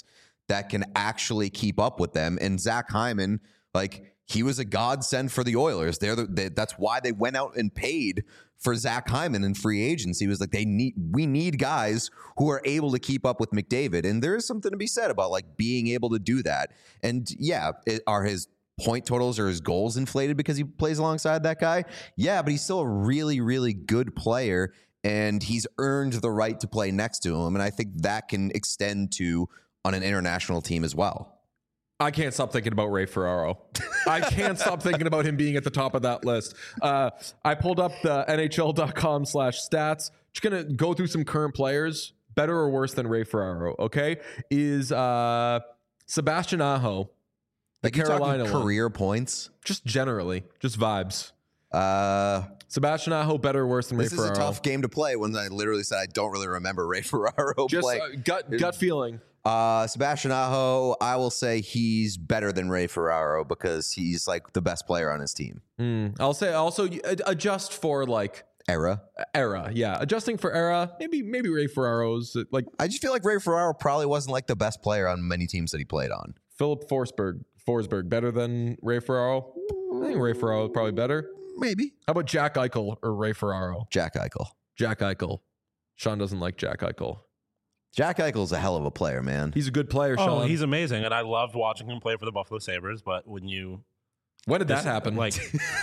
that can actually keep up with them. And Zach Hyman, like, he was a godsend for the Oilers. They're the, they, that's why they went out and paid for Zach Hyman in free agency. Was like, they need, we need guys who are able to keep up with McDavid. And there is something to be said about like being able to do that. And yeah, it, are his point totals or his goals inflated because he plays alongside that guy? Yeah, but he's still a really, really good player, and he's earned the right to play next to him. And I think that can extend to on an international team as well. I can't stop thinking about Ray Ferraro. I can't stop thinking about him being at the top of that list. Uh, I pulled up the N H L dot com slash stats. Just going to go through some current players, better or worse than Ray Ferraro, okay? Is uh, Sebastian Aho, the Like, you're Carolina talking one. career points. Just generally, just vibes. Uh, Sebastian Aho, better or worse than Ray this is Ferraro? a tough game to play when I literally said I don't really remember Ray Ferraro Just play. uh, gut, gut feeling. Uh, Sebastian Aho, I will say he's better than Ray Ferraro because he's like the best player on his team. Mm, I'll say also you- ad- adjust for like Era. era. Yeah, adjusting for era. Maybe maybe Ray Ferraro's uh, like I just feel like Ray Ferraro probably wasn't like the best player on many teams that he played on. Philip Forsberg. Forsberg better than Ray Ferraro. I think Ray Ferraro is probably better. Maybe. How about Jack Eichel or Ray Ferraro? Jack Eichel. Jack Eichel. Sean doesn't like Jack Eichel. Jack Eichel's a hell of a player, man. He's a good player, Oh, Sean. he's amazing, and I loved watching him play for the Buffalo Sabres. But when you when did that this- happen? Like,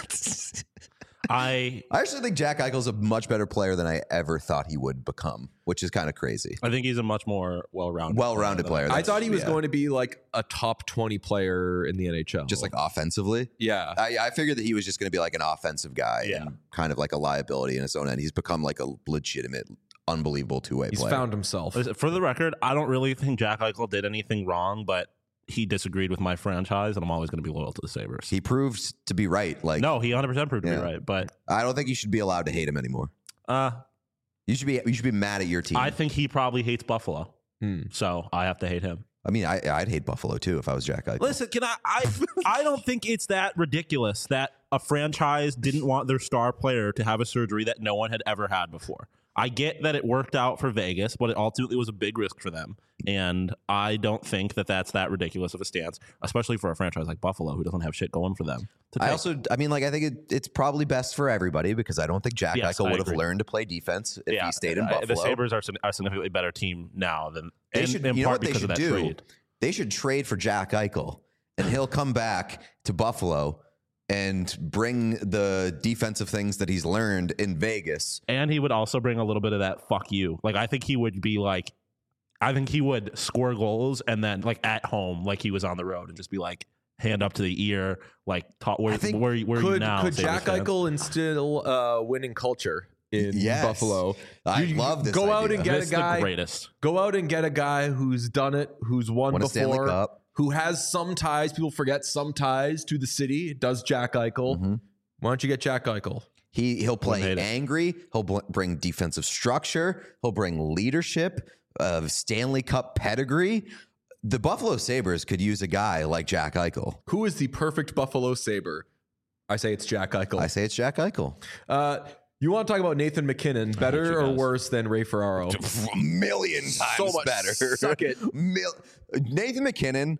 I I actually think Jack Eichel's a much better player than I ever thought he would become, which is kind of crazy. I think he's a much more well-rounded, Well-rounded player. I That's- thought he was yeah. going to be like a top twenty player in the N H L. Just like offensively. yeah. I, I figured that he was just going to be like an offensive guy Yeah. and kind of like a liability in his own end. He's become like a legitimate, unbelievable two-way He's player. found himself. For the record, I don't really think Jack Eichel did anything wrong, but he disagreed with my franchise, and I'm always going to be loyal to the Sabres. He proved to be right. Like, no, he one hundred percent proved to Yeah. be right, but I don't think you should be allowed to hate him anymore. uh, You should be. You should be mad at your team. I think he probably hates Buffalo, Hmm. so I have to hate him. I mean, I, I'd hate Buffalo too if I was Jack Eichel. Listen, can I? I I don't think it's that ridiculous that a franchise didn't want their star player to have a surgery that no one had ever had before. I get that it worked out for Vegas, but it ultimately was a big risk for them. And I don't think that that's that ridiculous of a stance, especially for a franchise like Buffalo who doesn't have shit going for them. to I take. also, I mean, like, I think it, it's probably best for everybody because I don't think Jack Yes, Eichel I would have agree. learned to play defense if yeah, he stayed in uh, Buffalo. The Sabres are a significantly better team now than They in, should, in you know part what they because should of that do? trade. They should trade for Jack Eichel, and he'll come back to Buffalo and bring the defensive things that he's learned in Vegas. And he would also bring a little bit of that fuck you. Like, I think he would be like, I think he would score goals and then, like, at home, like he was on the road and just be like, hand up to the ear, like, talk, where, I think- where, where are you Could now? could Sabres Jack fans? Eichel instill uh, winning culture in Yes. Buffalo? I You- love this Go out idea. and get This a is the guy. greatest. Go out and get a guy who's done it, who's won Won a Stanley before, Cup. who has some ties. People forget some ties to the city. Does Jack Eichel? Mm-hmm. Why don't you get Jack Eichel? He he'll play hate it. angry. He'll bl- bring defensive structure. He'll bring leadership, uh, Stanley Cup pedigree. The Buffalo Sabres could use a guy like Jack Eichel. Who is the perfect Buffalo Sabre? I say it's Jack Eichel. I say it's Jack Eichel. Uh, you want to talk about Nathan McKinnon? Better you or guys. worse than Ray Ferraro? A million times So much better. suck it. Mil- Nathan McKinnon,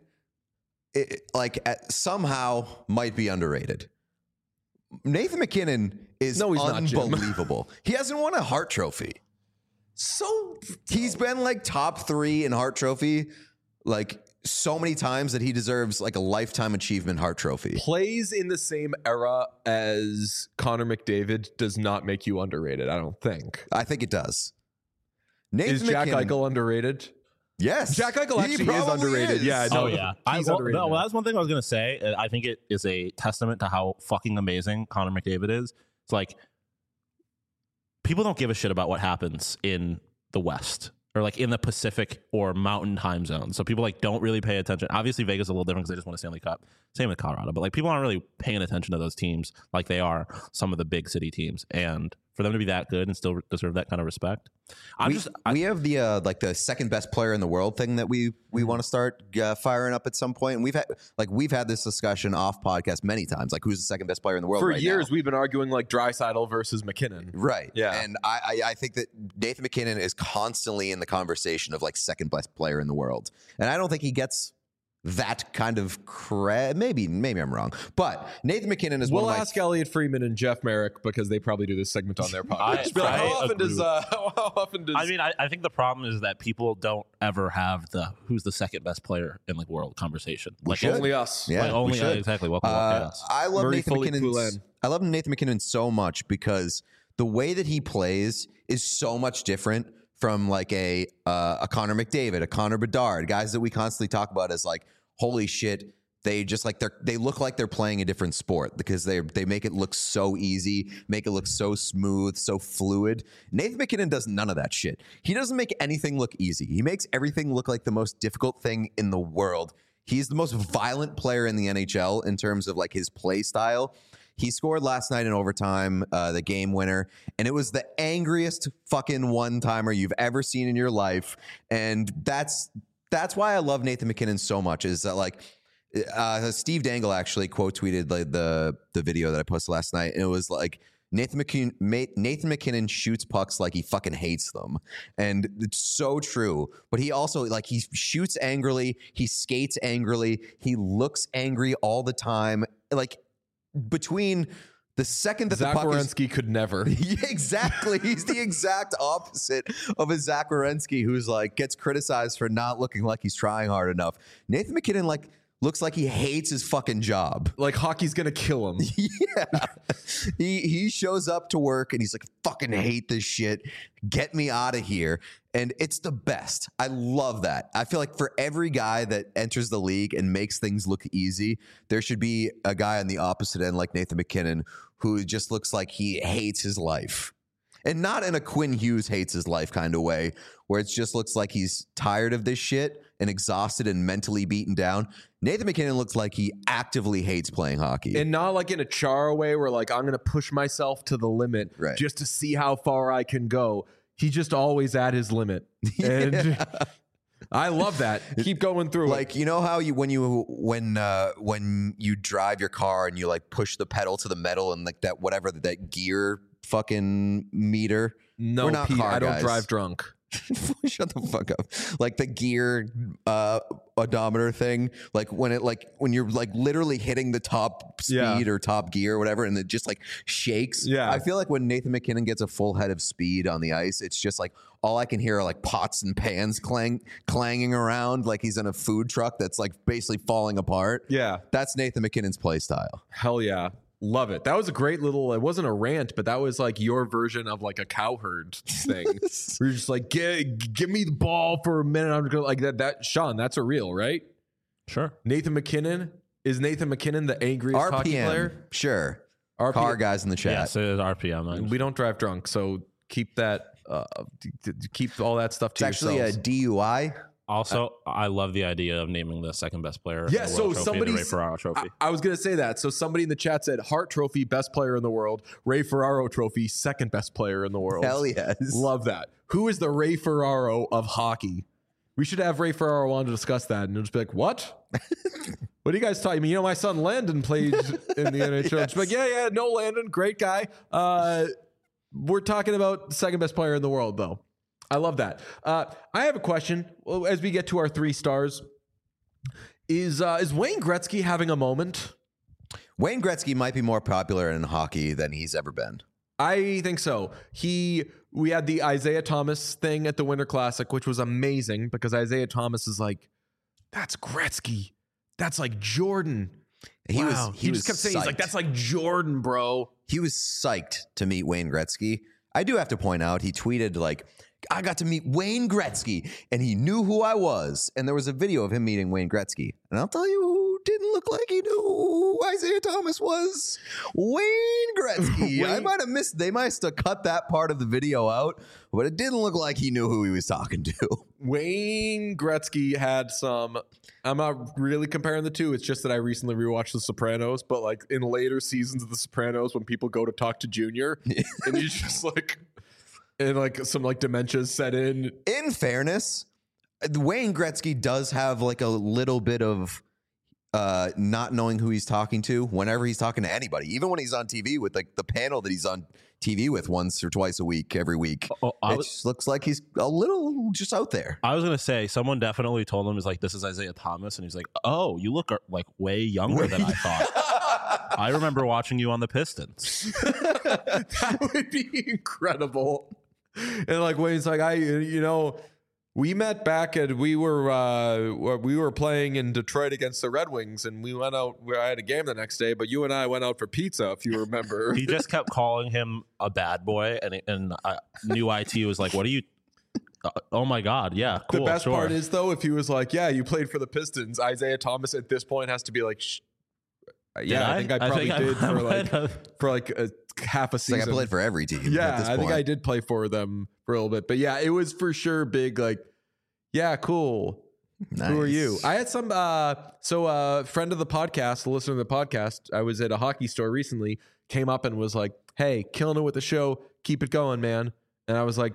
it, like at, somehow might be underrated. Nathan McKinnon is No, he's not, Jim. unbelievable. He hasn't won a Hart Trophy. So He's been like top three in Hart Trophy, like so many times that he deserves like a lifetime achievement Hart Trophy. plays in the same era as Connor McDavid does not make you underrated. I don't think. I think it does. Nathan Is Jack McKinnon- Eichel underrated? Yes, Jack Eichel He actually is probably underrated. is. Yeah, no, Oh yeah, I, he's well, underrated no, well, now. that's one thing I was gonna say. Uh, I think it is a testament to how fucking amazing Connor McDavid is. It's like people don't give a shit about what happens in the West or like in the Pacific or Mountain time zones. So people like don't really pay attention. Obviously, Vegas is a little different because they just won a Stanley Cup. Same with Colorado, but like people aren't really paying attention to those teams like they are some of the big city teams. And for them to be that good and still deserve that kind of respect. I'm we, just I, we have the uh, like the second best player in the world thing that we we want to start uh, firing up at some point. And we've had like we've had this discussion off podcast many times. Like, who's the second best player in the world For right years, now? we've been arguing like Draisaitl versus McKinnon. Right. Yeah. And I, I I think that Nathan McKinnon is constantly in the conversation of like second best player in the world, and I don't think he gets that kind of cred. Maybe, maybe I'm wrong, but Nathan McKinnon is We'll one of my. ask Elliot Freeman and Jeff Merrick because they probably do this segment on their podcast. I- Just be like, I how often agree does with- uh, how often does I mean, I, I think the problem is that people don't ever have the who's the second best player in the world conversation. Like should. only us? Yeah, like we only should. exactly. Welcome to Uh, Chaos. I love Murray Nathan Foley McKinnon. Poulin. I love Nathan McKinnon so much because the way that he plays is so much different from like a uh, a Connor McDavid, a Connor Bedard, guys that we constantly talk about as like, holy shit, they just like they're they look like they're playing a different sport because they they make it look so easy, make it look so smooth, so fluid. Nathan McKinnon does none of that shit. He doesn't make anything look easy. He makes everything look like the most difficult thing in the world. He's the most violent player in the N H L in terms of like his play style. He scored last night in overtime, uh, the game winner, and it was the angriest fucking one-timer you've ever seen in your life. And that's that's why I love Nathan McKinnon so much. Is that like uh, Steve Dangle actually quote tweeted like the the video that I posted last night, and it was like Nathan McKinnon, Nathan McKinnon shoots pucks like he fucking hates them. And it's so true. But he also, like, he shoots angrily. He skates angrily. He looks angry all the time. Like, between the second that Zach the puck is... Werenski could never. Yeah, exactly. He's the exact opposite of a Zach Werenski who's, like, gets criticized for not looking like he's trying hard enough. Nathan McKinnon, like, looks like he hates his fucking job. Like hockey's gonna kill him. Yeah. He he shows up to work and he's like, fucking hate this shit. Get me out of here. And it's the best. I love that. I feel like for every guy that enters the league and makes things look easy, there should be a guy on the opposite end like Nathan McKinnon who just looks like he hates his life. And not in a Quinn Hughes hates his life kind of way, where it just looks like he's tired of this shit and exhausted and mentally beaten down. Nathan McKinnon looks like he actively hates playing hockey. And not like in a Chara way where like I'm gonna push myself to the limit Right. just to see how far I can go. He's just always at his limit. And Yeah. I love that. Keep going through Like, you know how you when you when uh when you drive your car and you like push the pedal to the metal and like that whatever that gear fucking meter. it. No, We're not Pete, car I don't guys. drive drunk. Shut the fuck up. Like the gear uh odometer thing, like when it like when you're like literally hitting the top speed Yeah. or top gear or whatever and it just like shakes. Yeah. I feel like when Nathan McKinnon gets a full head of speed on the ice, it's just like all I can hear are like pots and pans clang clanging around like he's in a food truck that's like basically falling apart. Yeah. That's Nathan McKinnon's play style. Hell yeah. Love it. That was a great little, it wasn't a rant, but that was like your version of like a cowherd thing. Where you're just like, give, give me the ball for a minute. I'm gonna like that. That Sean, that's a real, right? Sure. Nathan McKinnon. Is Nathan McKinnon the angriest R hockey P M, player? sure. R P M. Car guys in the chat. Yes, it is R P M. I We don't drive drunk, so keep that, uh, d- d- keep all that stuff to It's actually a yourselves. D U I. Also, I love the idea of naming the second best player. Yeah, in the so World Trophy somebody the Ray Ferraro Trophy. I, I was gonna say that. So somebody in the chat said Hart Trophy, best player in the world. Ray Ferraro Trophy, second best player in the world. Hell yes. Love that. Who is the Ray Ferraro of hockey? We should have Ray Ferraro on to discuss that, and you'll just be like, "What? What are you guys talking?" I mean, you know, my son Landon played in the N H L. Yes. Just be like, yeah, yeah, no, Landon, great guy. Uh, we're talking about the second best player in the world, though. I love that. Uh, I have a question well, as we get to our three stars. Is uh, is Wayne Gretzky having a moment? Wayne Gretzky might be more popular in hockey than he's ever been. I think so. He we had the Isaiah Thomas thing at the Winter Classic, which was amazing because Isaiah Thomas is like, that's Gretzky. That's like Jordan. He Wow. was he, He was just kept saying, he's like, psyched. that's like Jordan, bro. He was psyched to meet Wayne Gretzky. I do have to point out, he tweeted like, I got to meet Wayne Gretzky and he knew who I was. And there was a video of him meeting Wayne Gretzky. And I'll tell you who didn't look like he knew who Isaiah Thomas was? Wayne Gretzky. I Wayne- might have missed. They might have cut that part of the video out, but it didn't look like he knew who he was talking to. Wayne Gretzky had some. I'm not really comparing the two. It's just that I recently rewatched The Sopranos, but like in later seasons of The Sopranos, when people go to talk to Junior, and he's just like, and like some like dementia set in. In fairness, Wayne Gretzky does have like a little bit of uh, not knowing who he's talking to whenever he's talking to anybody, even when he's on T V with like the panel that he's on T V with once or twice a week, every week. Oh, I it was- just looks like he's a little just out there. I was gonna say someone definitely told him, is like, this is Isaiah Thomas, and he's like, oh, you look like way younger than I thought. I remember watching you on the Pistons. That would be incredible. And like Wayne's like, I, you know, we met back at we were uh, we were playing in Detroit against the Red Wings, and we went out. I had a game the next day, but you and I went out for pizza, if you remember. He just kept calling him a bad boy, and and I knew I T was like, what are you? Uh, oh my God, yeah, cool. The best sure. part is though, if he was like, "Yeah, you played for the Pistons," Isaiah Thomas at this point has to be like, Shh. "Yeah, I? I? think I I probably think I- did I for might like have. for like a half a It's season." like I played for every team. Yeah, at this I think point. I did play for them for a little bit, but yeah, it was for sure big. Like, yeah, cool. Who are you? Nice. I had some. Uh, so, a uh, friend of the podcast, a listener to the podcast, I was at a hockey store recently. Came up and was like, "Hey, killing it with the show. Keep it going, man." And I was like,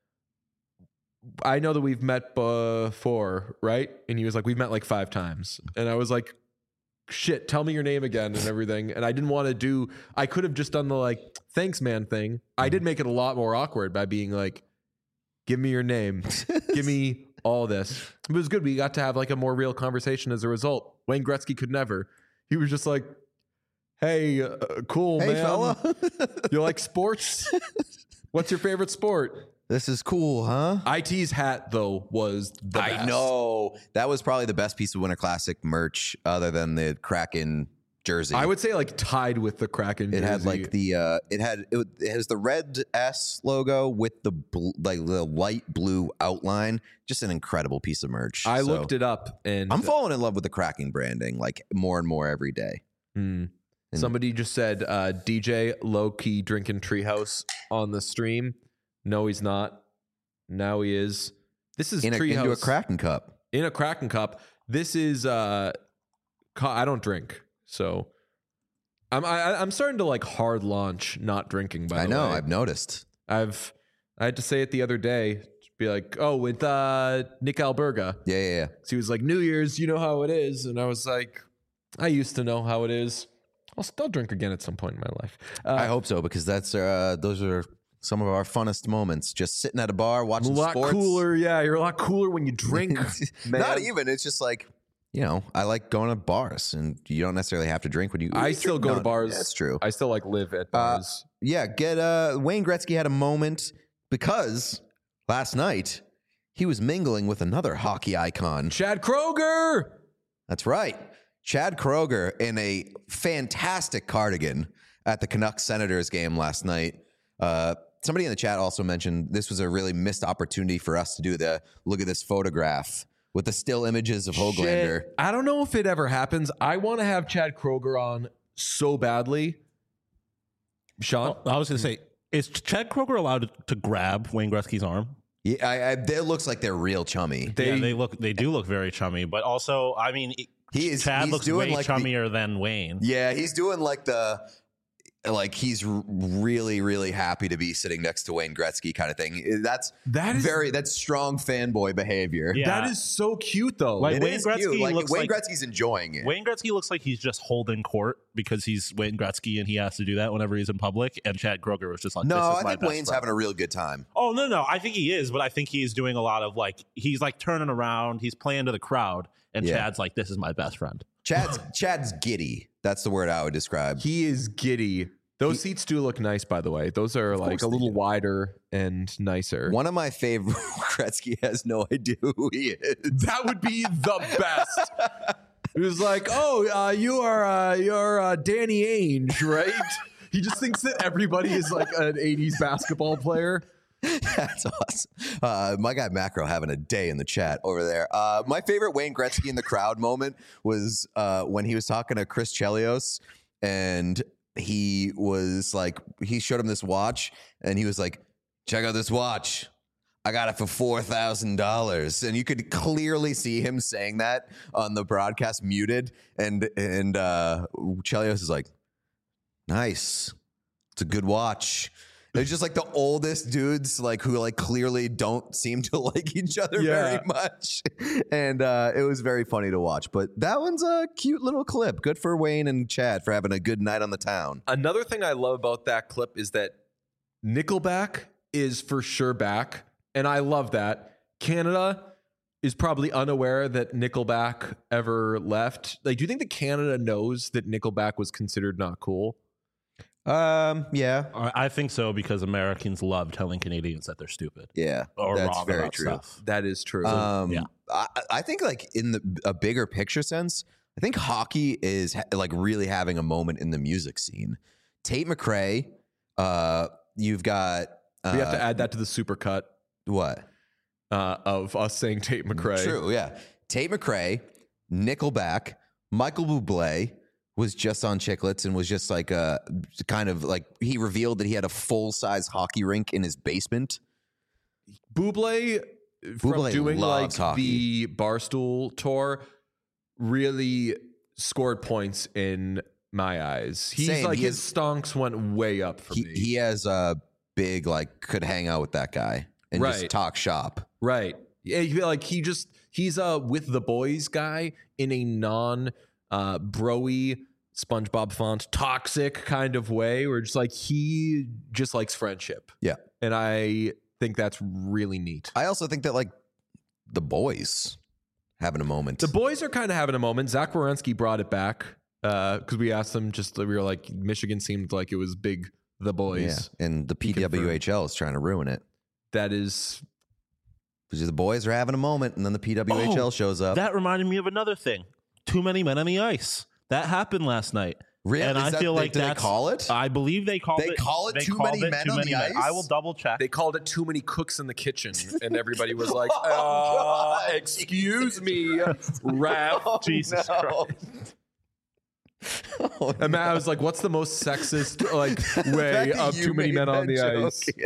"I know that we've met before, right?" And he was like, "We've met like five times." And I was like, "Shit, tell me your name again and everything." And I didn't want to do. I could have just done the like, "Thanks, man" thing. I did make it a lot more awkward by being like, "Give me your name. Give me all this." It was good. We got to have like a more real conversation as a result. Wayne Gretzky could never. He was just like, "Hey, uh, cool, Hey, man. fella. You like sports? What's your favorite sport?" This is cool, huh? I T's hat, though, was the I best. know. That was probably the best piece of Winter Classic merch other than the Kraken jersey. I would say like tied with the Kraken. It had jersey. like the uh, it had it, it has the red S logo with the bl- like the light blue outline. Just an incredible piece of merch. I So, looked it up, and I'm falling in love with the Kraken branding like more and more every day. Hmm. And- Somebody just said uh, D J low key drinking Treehouse on the stream. No, he's not. Now he is. This is In a, Treehouse into a Kraken cup. in a Kraken cup. This is. Uh, co- I don't drink, so I'm. I, I'm starting to like hard launch not drinking. By I the know. way. I've noticed. I've. I had to say it the other day. To be like, oh, with uh, Nick Alberga. Yeah, yeah, yeah. So he was like, New Year's, you know how it is. And I was like, I used to know how it is. I'll still drink again at some point in my life. Uh, I hope so because that's uh, those are some of our funnest moments. Just sitting at a bar a watching lot sports. cooler. Yeah, you're a lot cooler when you drink. man. Not even. It's just like, you know, I like going to bars, and you don't necessarily have to drink when you. I you still drink- go no, to bars. That's true. I still like live at bars. Yeah, get uh Wayne Gretzky had a moment because last night he was mingling with another hockey icon. Chad Kroger. That's right. Chad Kroger in a fantastic cardigan at the Canucks Senators game last night. Uh, somebody in the chat also mentioned this was a really missed opportunity for us to do the look at this photograph with the still images of Höglander. Shit. I don't know if it ever happens. I want to have Chad Kroger on so badly. Sean? I was gonna say, is Chad Kroger allowed to grab Wayne Gretzky's arm? Yeah, I, I, it looks like they're real chummy. They- yeah, they look, they do look very chummy. But also, I mean, He is. Chad he's looks doing way like the- chummier than Wayne. Yeah, he's doing like the like he's r- really really happy to be sitting next to Wayne Gretzky kind of thing. That's That is- very that's strong fanboy behavior. Yeah. That is so cute, though. Like- It Wayne is Gretzky cute. Like looks Wayne like- Gretzky's enjoying it. Wayne Gretzky looks like he's just holding court because he's Wayne Gretzky and he has to do that whenever he's in public. And Chad Kroger was just like, no, this is I my think best Wayne's friend. having a real good time. Oh no, no, I think he is, but I think he's doing a lot of like he's like turning around, he's playing to the crowd, and Yeah. Chad's like, "This is my best friend." Chad's Chad's giddy. That's the word I would describe. He is giddy. Those He- seats do look nice, by the way. Those are like course a they little do. wider and nicer. One of my favorite Gretzky has no idea who he is. That would be the best. It was like, oh, uh, you are uh, you're uh, Danny Ainge, right? He just thinks that everybody is like an eighties basketball player. That's awesome. Uh, my guy Macro having a day in the chat over there. Uh, my favorite Wayne Gretzky in the crowd moment was uh, when he was talking to Chris Chelios, and he was like, he showed him this watch, and he was like, check out this watch. I got it for four thousand dollars. And you could clearly see him saying that on the broadcast muted. And, and uh, Chelios is like, nice. It's a good watch. They're just like the oldest dudes, like who like clearly don't seem to like each other Yeah. very much, and uh, it was very funny to watch. But that one's a cute little clip. Good for Wayne and Chad for having a good night on the town. Another thing I love about that clip is that Nickelback is for sure back, and I love that. Canada is probably unaware that Nickelback ever left. Like, do you think that Canada knows that Nickelback was considered not cool? Um, yeah, I I think so because Americans love telling Canadians that they're stupid yeah, or that's wrong very about true. stuff. That is true. Um, yeah. I, I think like in the a bigger picture sense, I think hockey is ha- like really having a moment in the music scene. Tate McRae, uh, you've got uh, we have to add that to the supercut what? uh, of us saying Tate McRae. True, yeah. Tate McRae, Nickelback, Michael Bublé was just on Chiclets and was just like a kind of like he revealed that he had a full size hockey rink in his basement. Bublé, from Bublé doing like loves hockey. the Barstool tour, really scored points in my eyes. He's Same, like he his is- stonks went way up for He, me. he has a big like could hang out with that guy and just Right. talk shop. Right. Yeah, you feel like he just he's a with the boys guy in a non uh broy SpongeBob font toxic kind of way where just like he just likes friendship. Yeah. And I think that's really neat. I also think that like the boys having a moment. The boys are kind of having a moment. Zach Wierenski brought it back because we asked them just we were like Michigan seemed like it was big the yeah, boys. and the P W H L is trying to ruin it. That is Because the boys are having a moment, and then the P W H L Oh, shows up. That reminded me of another thing. Too many men on the ice. That happened last night. Really? And Is I that- feel they- like do they that's, call it? I believe they called They it. call it too called many men on the ice? I will double check. they called it too many cooks in the kitchen, and everybody was like, Oh, uh, God. "Excuse me, ref." Oh, Jesus no. Christ. Oh, And Matt was like, "What's the most sexist like way That of you too many made men on that the joke, ice?" yeah.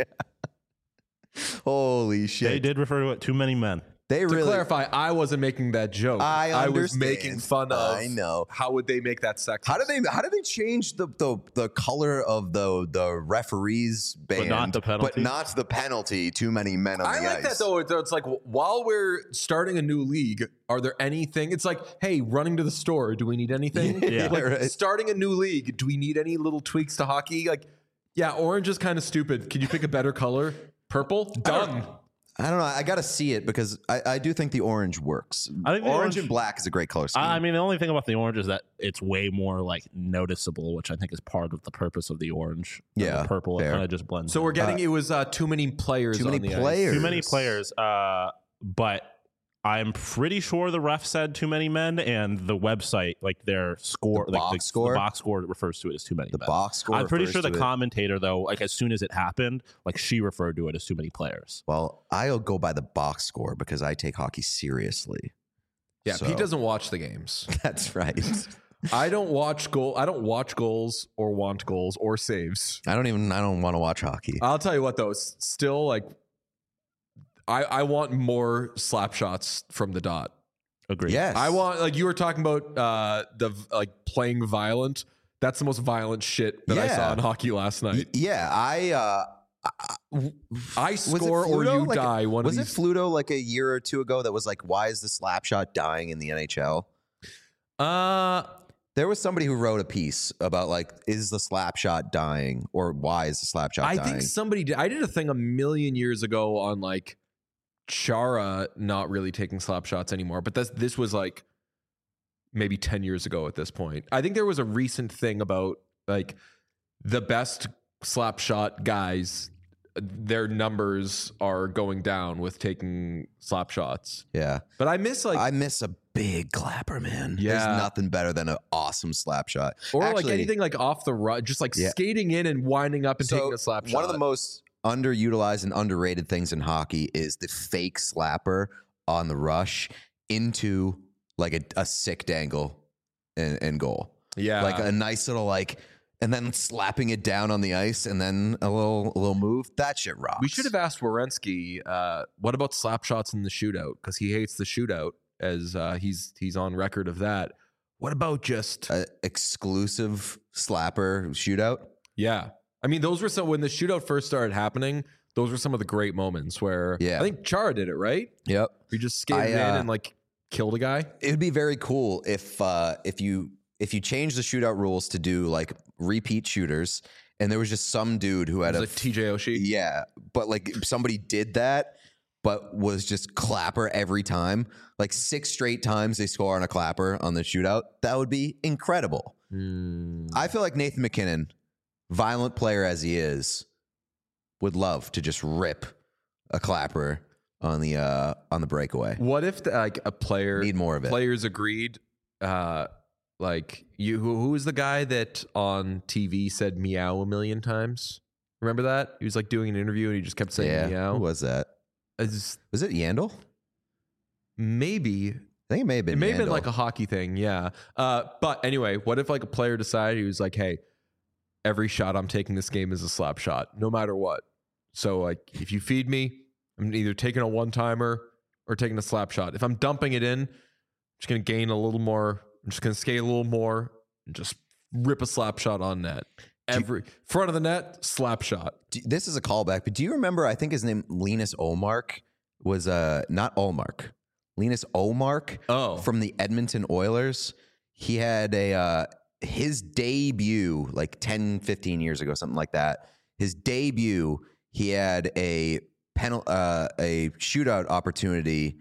Holy shit. They did refer to it. Too many men. They To really clarify, I wasn't making that joke. I was understand. making fun of. I know. How would they make that sexist? How did they how did they change the the, the color of the the referees band not the penalty? but not the penalty? Too many men on I the like ice. that though. It's it's like while we're starting a new league, are there anything? It's like, hey, running to the store. Do we need anything? Yeah. Like, Right. starting a new league. Do we need any little tweaks to hockey? Like, yeah, orange is kind of stupid. Can you pick a better color? Purple? Done. I don't know. I got to see it because I, I do think the orange works. I think the orange, orange- and black is a great color scheme. I I mean, the only thing about the orange is that it's way more like noticeable, which I think is part of the purpose of the orange. than Yeah, the purple. It fair. kind of just blends. So in. we're getting it was uh, too many players. too many on the ice. players. too many players. Uh, but I'm pretty sure the ref said too many men, and the website, like their score, The like box the, score? the box score refers to it as too many. The men. box score. I'm pretty refers sure the to it. commentator, though, like as soon as it happened, like she referred to it as too many players. Well, I'll go by the box score because I take hockey seriously. Yeah, So- Pete doesn't watch the games. That's right. I don't watch goal. I don't watch goals or want goals or saves. I don't even. I don't want to watch hockey. I'll tell you what though, it's still like I I want more slap shots from the dot. Agreed. Yes, I want like you were talking about uh the like playing violent. That's the most violent shit that I Yeah. saw in hockey last Y- night. Yeah, I. Uh, I was it score or Fluto? you Like, die. One was of it these. Fluto like a year or two ago that was like, why is the slap shot dying in the N H L? uh There was somebody who wrote a piece about like, is the slap shot dying or why is the slap shot I dying? think somebody did. I did a thing a million years ago on like Chara not really taking slap shots anymore, but this this was like maybe ten years ago at this point. I think there was a recent thing about like the best slap shot guys, their numbers are going down with taking slap shots. yeah. But I miss like I miss a big clapper, man. Yeah. There's nothing better than an awesome slap shot. or like Actually, anything like off the run, just like Yeah. skating in and winding up and so taking a slap shot. one of the most underutilized and underrated things in hockey is the fake slapper on the rush into like a, a sick dangle and, and goal. Yeah. Like a nice little like, and then slapping it down on the ice and then a little a little move. That shit rocks. We should have asked Werenski, uh, what about slap shots in the shootout? Because he hates the shootout, as uh, he's he's on record of that. What about just a exclusive slapper shootout? Yeah. I mean, those were some, when the shootout first started happening, those were some of the great moments where Yeah. I think Chara did it, right? Yep. We just skated I, uh, in and like killed a guy. It would be very cool if uh, if you if you change the shootout rules to do like repeat shooters, and there was just some dude who had It a was like T J Oshie. yeah, but like somebody did that, but was just clapper every time, like six straight times they score on a clapper on the shootout. That would be incredible. Mm. I feel like Nathan McKinnon, violent player as he is, would love to just rip a clapper on the uh, on the breakaway. What if the, like a player Need more of it. players agreed? Uh, like you, who, who was the guy that on T V said meow a million times? Remember that? He was like doing an interview and he just kept saying Yeah, meow. who was that? It's- Was it Yandel? maybe I think it may have been. it may have been Yandel. like a hockey thing, yeah. Uh, but anyway, what if like a player decided he was like, "Hey, every shot I'm taking this game is a slap shot, no matter what. So like, if you feed me, I'm either taking a one timer or taking a slap shot. If I'm dumping it in, I'm just gonna gain a little more. I'm just gonna skate a little more and just rip a slap shot on net. Every front of the net, slap shot. Do- this is a callback, but do you remember? I think his name Linus Olmark was uh not Olmark, Linus Olmark Oh, from the Edmonton Oilers. He had a uh, his debut like ten, fifteen years ago, something like that. His debut, he had a penal uh, a shootout opportunity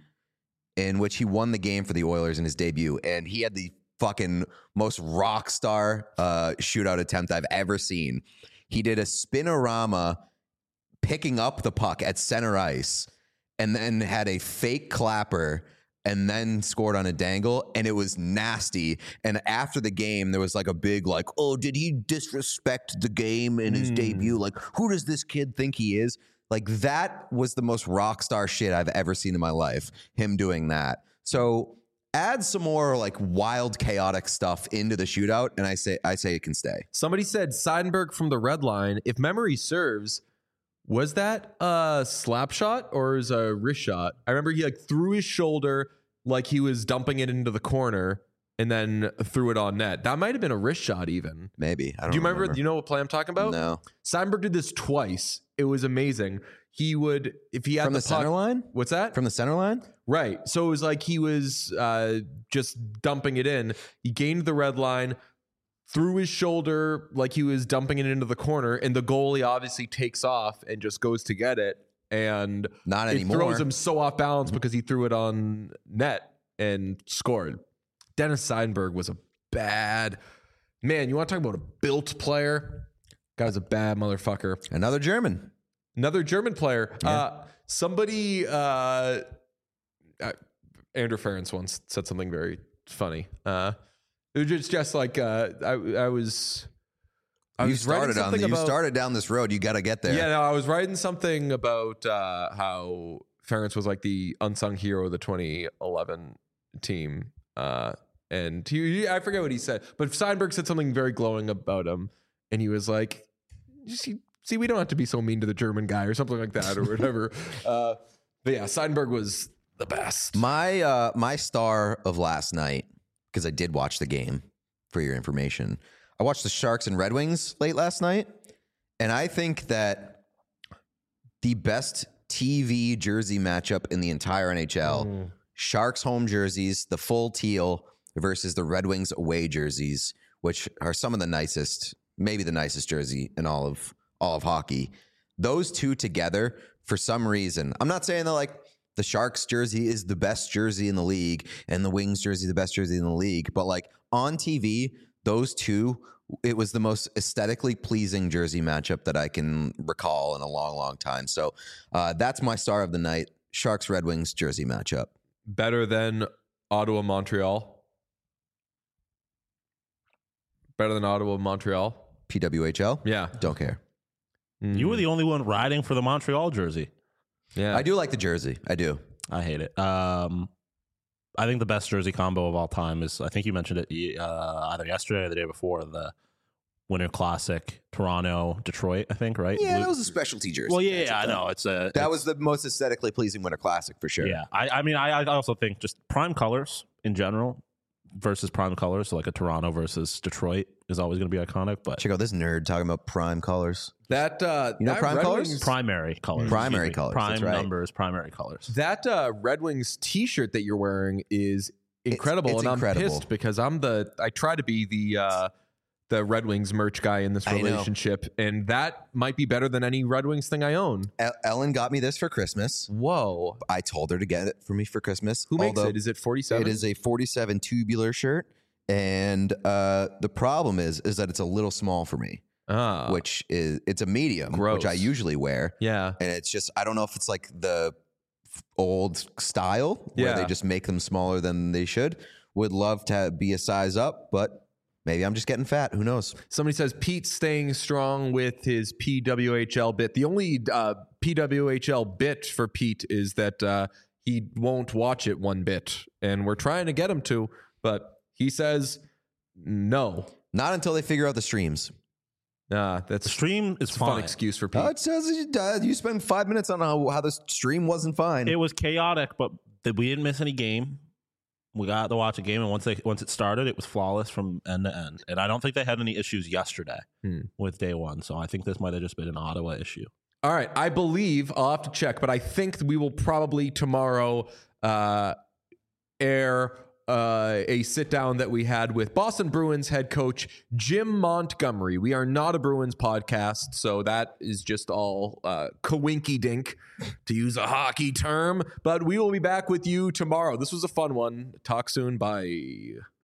in which he won the game for the Oilers in his debut, and he had the fucking most rock star uh, shootout attempt I've ever seen. He did a spinorama picking up the puck at center ice and then had a fake clapper and then scored on a dangle, and it was nasty. And after the game, there was like a big like, oh, did he disrespect the game in his Mm. debut? Like, who does this kid think he is? Like, that was the most rock star shit I've ever seen in my life, him doing that. So add some more like wild, chaotic stuff into the shootout, and I say I say it can stay. somebody said Seidenberg from the red line. If memory serves, was that a slap shot or is a wrist shot? I remember he like threw his shoulder like he was dumping it into the corner and then threw it on net. That might have been a wrist shot even. Maybe. I don't Do you remember, Do you know what play I'm talking about? No. Seidenberg did this twice. It was amazing. He would, if he had From the, the, puck, center line? What's that? From the center line? Right. So it was like he was uh, just dumping it in. He gained the red line, threw his shoulder like he was dumping it into the corner, and the goalie obviously takes off and just goes to get it. And Not it anymore. throws him so off balance because he threw it on net and scored. Dennis Seidenberg was a bad man. You want to talk about a built player? Guy's a bad motherfucker. Another German. Another German player. Yeah. Uh, somebody, uh, uh, Andrew Ferentz once said something very funny. Uh, it was just, just like uh, I, I was. I you was writing started on something the, you about, started down this road. You got to get there. Yeah, no, I was writing something about uh, how Ferentz was like the unsung hero of the twenty eleven team. Uh, and he, he- I forget what he said, but Seidenberg said something very glowing about him. And he was like, "You see, see, we don't have to be so mean to the German guy," or something like that, or whatever. uh, but yeah, Seidenberg was the best. My uh, my star of last night, because I did watch the game for your information. I watched the Sharks and Red Wings late last night, and I think that the best T V jersey matchup in the entire N H L, Mm. Sharks home jerseys, the full teal versus the Red Wings away jerseys, which are some of the nicest, maybe the nicest jersey in all of all of hockey. Those two together, for some reason, I'm not saying that like the Sharks jersey is the best jersey in the league and the Wings jersey the best jersey in the league, but like on T V, those two, it was the most aesthetically pleasing jersey matchup that I can recall in a long, long time. So uh, that's my star of the night, Sharks Red Wings jersey matchup. Better than Ottawa, Montreal. Better than Ottawa, Montreal. P W H L? Yeah. Don't care. You were the only one riding for the Montreal jersey. Yeah. I do like the jersey. I do. I hate it. Um, I think the best jersey combo of all time is, I think you mentioned it uh, either yesterday or the day before, the Winter Classic, Toronto, Detroit, I think, right? Yeah, Blue- that was a specialty jersey. Well, yeah, yeah, I know. It's a, That it's- was the most aesthetically pleasing Winter Classic for sure. yeah. I, I mean, I, I also think just prime colors in general versus prime colors, so like a Toronto versus Detroit is always going to be iconic, but Check out this nerd talking about prime colors. That uh, You know that prime Red colors? Wings, primary colors. Primary excuse me. colors, Prime that's right. numbers, primary colors. that uh, Red Wings T-shirt that you're wearing is incredible, it's and I'm incredible. pissed because I'm the I try to be the uh, the Red Wings merch guy in this I know. relationship, and that might be better than any Red Wings thing I own. El- Ellen got me this for Christmas. Whoa! I told her to get it for me for Christmas. Who makes although it? Is it forty-seven? It is a forty-seven tubular shirt, and uh, the problem is is that it's a little small for me, Ah, which is it's a medium, Gross. which I usually wear, yeah. and it's just I don't know if it's like the f- old style where Yeah. they just make them smaller than they should. Would love to be a size up, but maybe I'm just getting fat. Who knows? Somebody says Pete's staying strong with his P W H L bit. The only uh, P W H L bit for Pete is that uh, he won't watch it one bit, and we're trying to get him to, but he says no. Not until they figure out the streams. Nah, that's The stream is a fun fine. excuse for Pete. Oh, it says you, uh, you spend five minutes on how, how the stream wasn't fine. It was chaotic, but th- we didn't miss any game. We got to watch a game, and once they once it started, it was flawless from end to end. And I don't think they had any issues yesterday Hmm. with day one. So I think this might have just been an Ottawa issue. All right, I believe I'll have to check, but I think we will probably tomorrow uh, air uh, a sit down that we had with Boston Bruins head coach Jim Montgomery. We are not a Bruins podcast, so that is just all uh, coinky dink, to use a hockey term. But we will be back with you tomorrow. This was a fun one. Talk soon. Bye.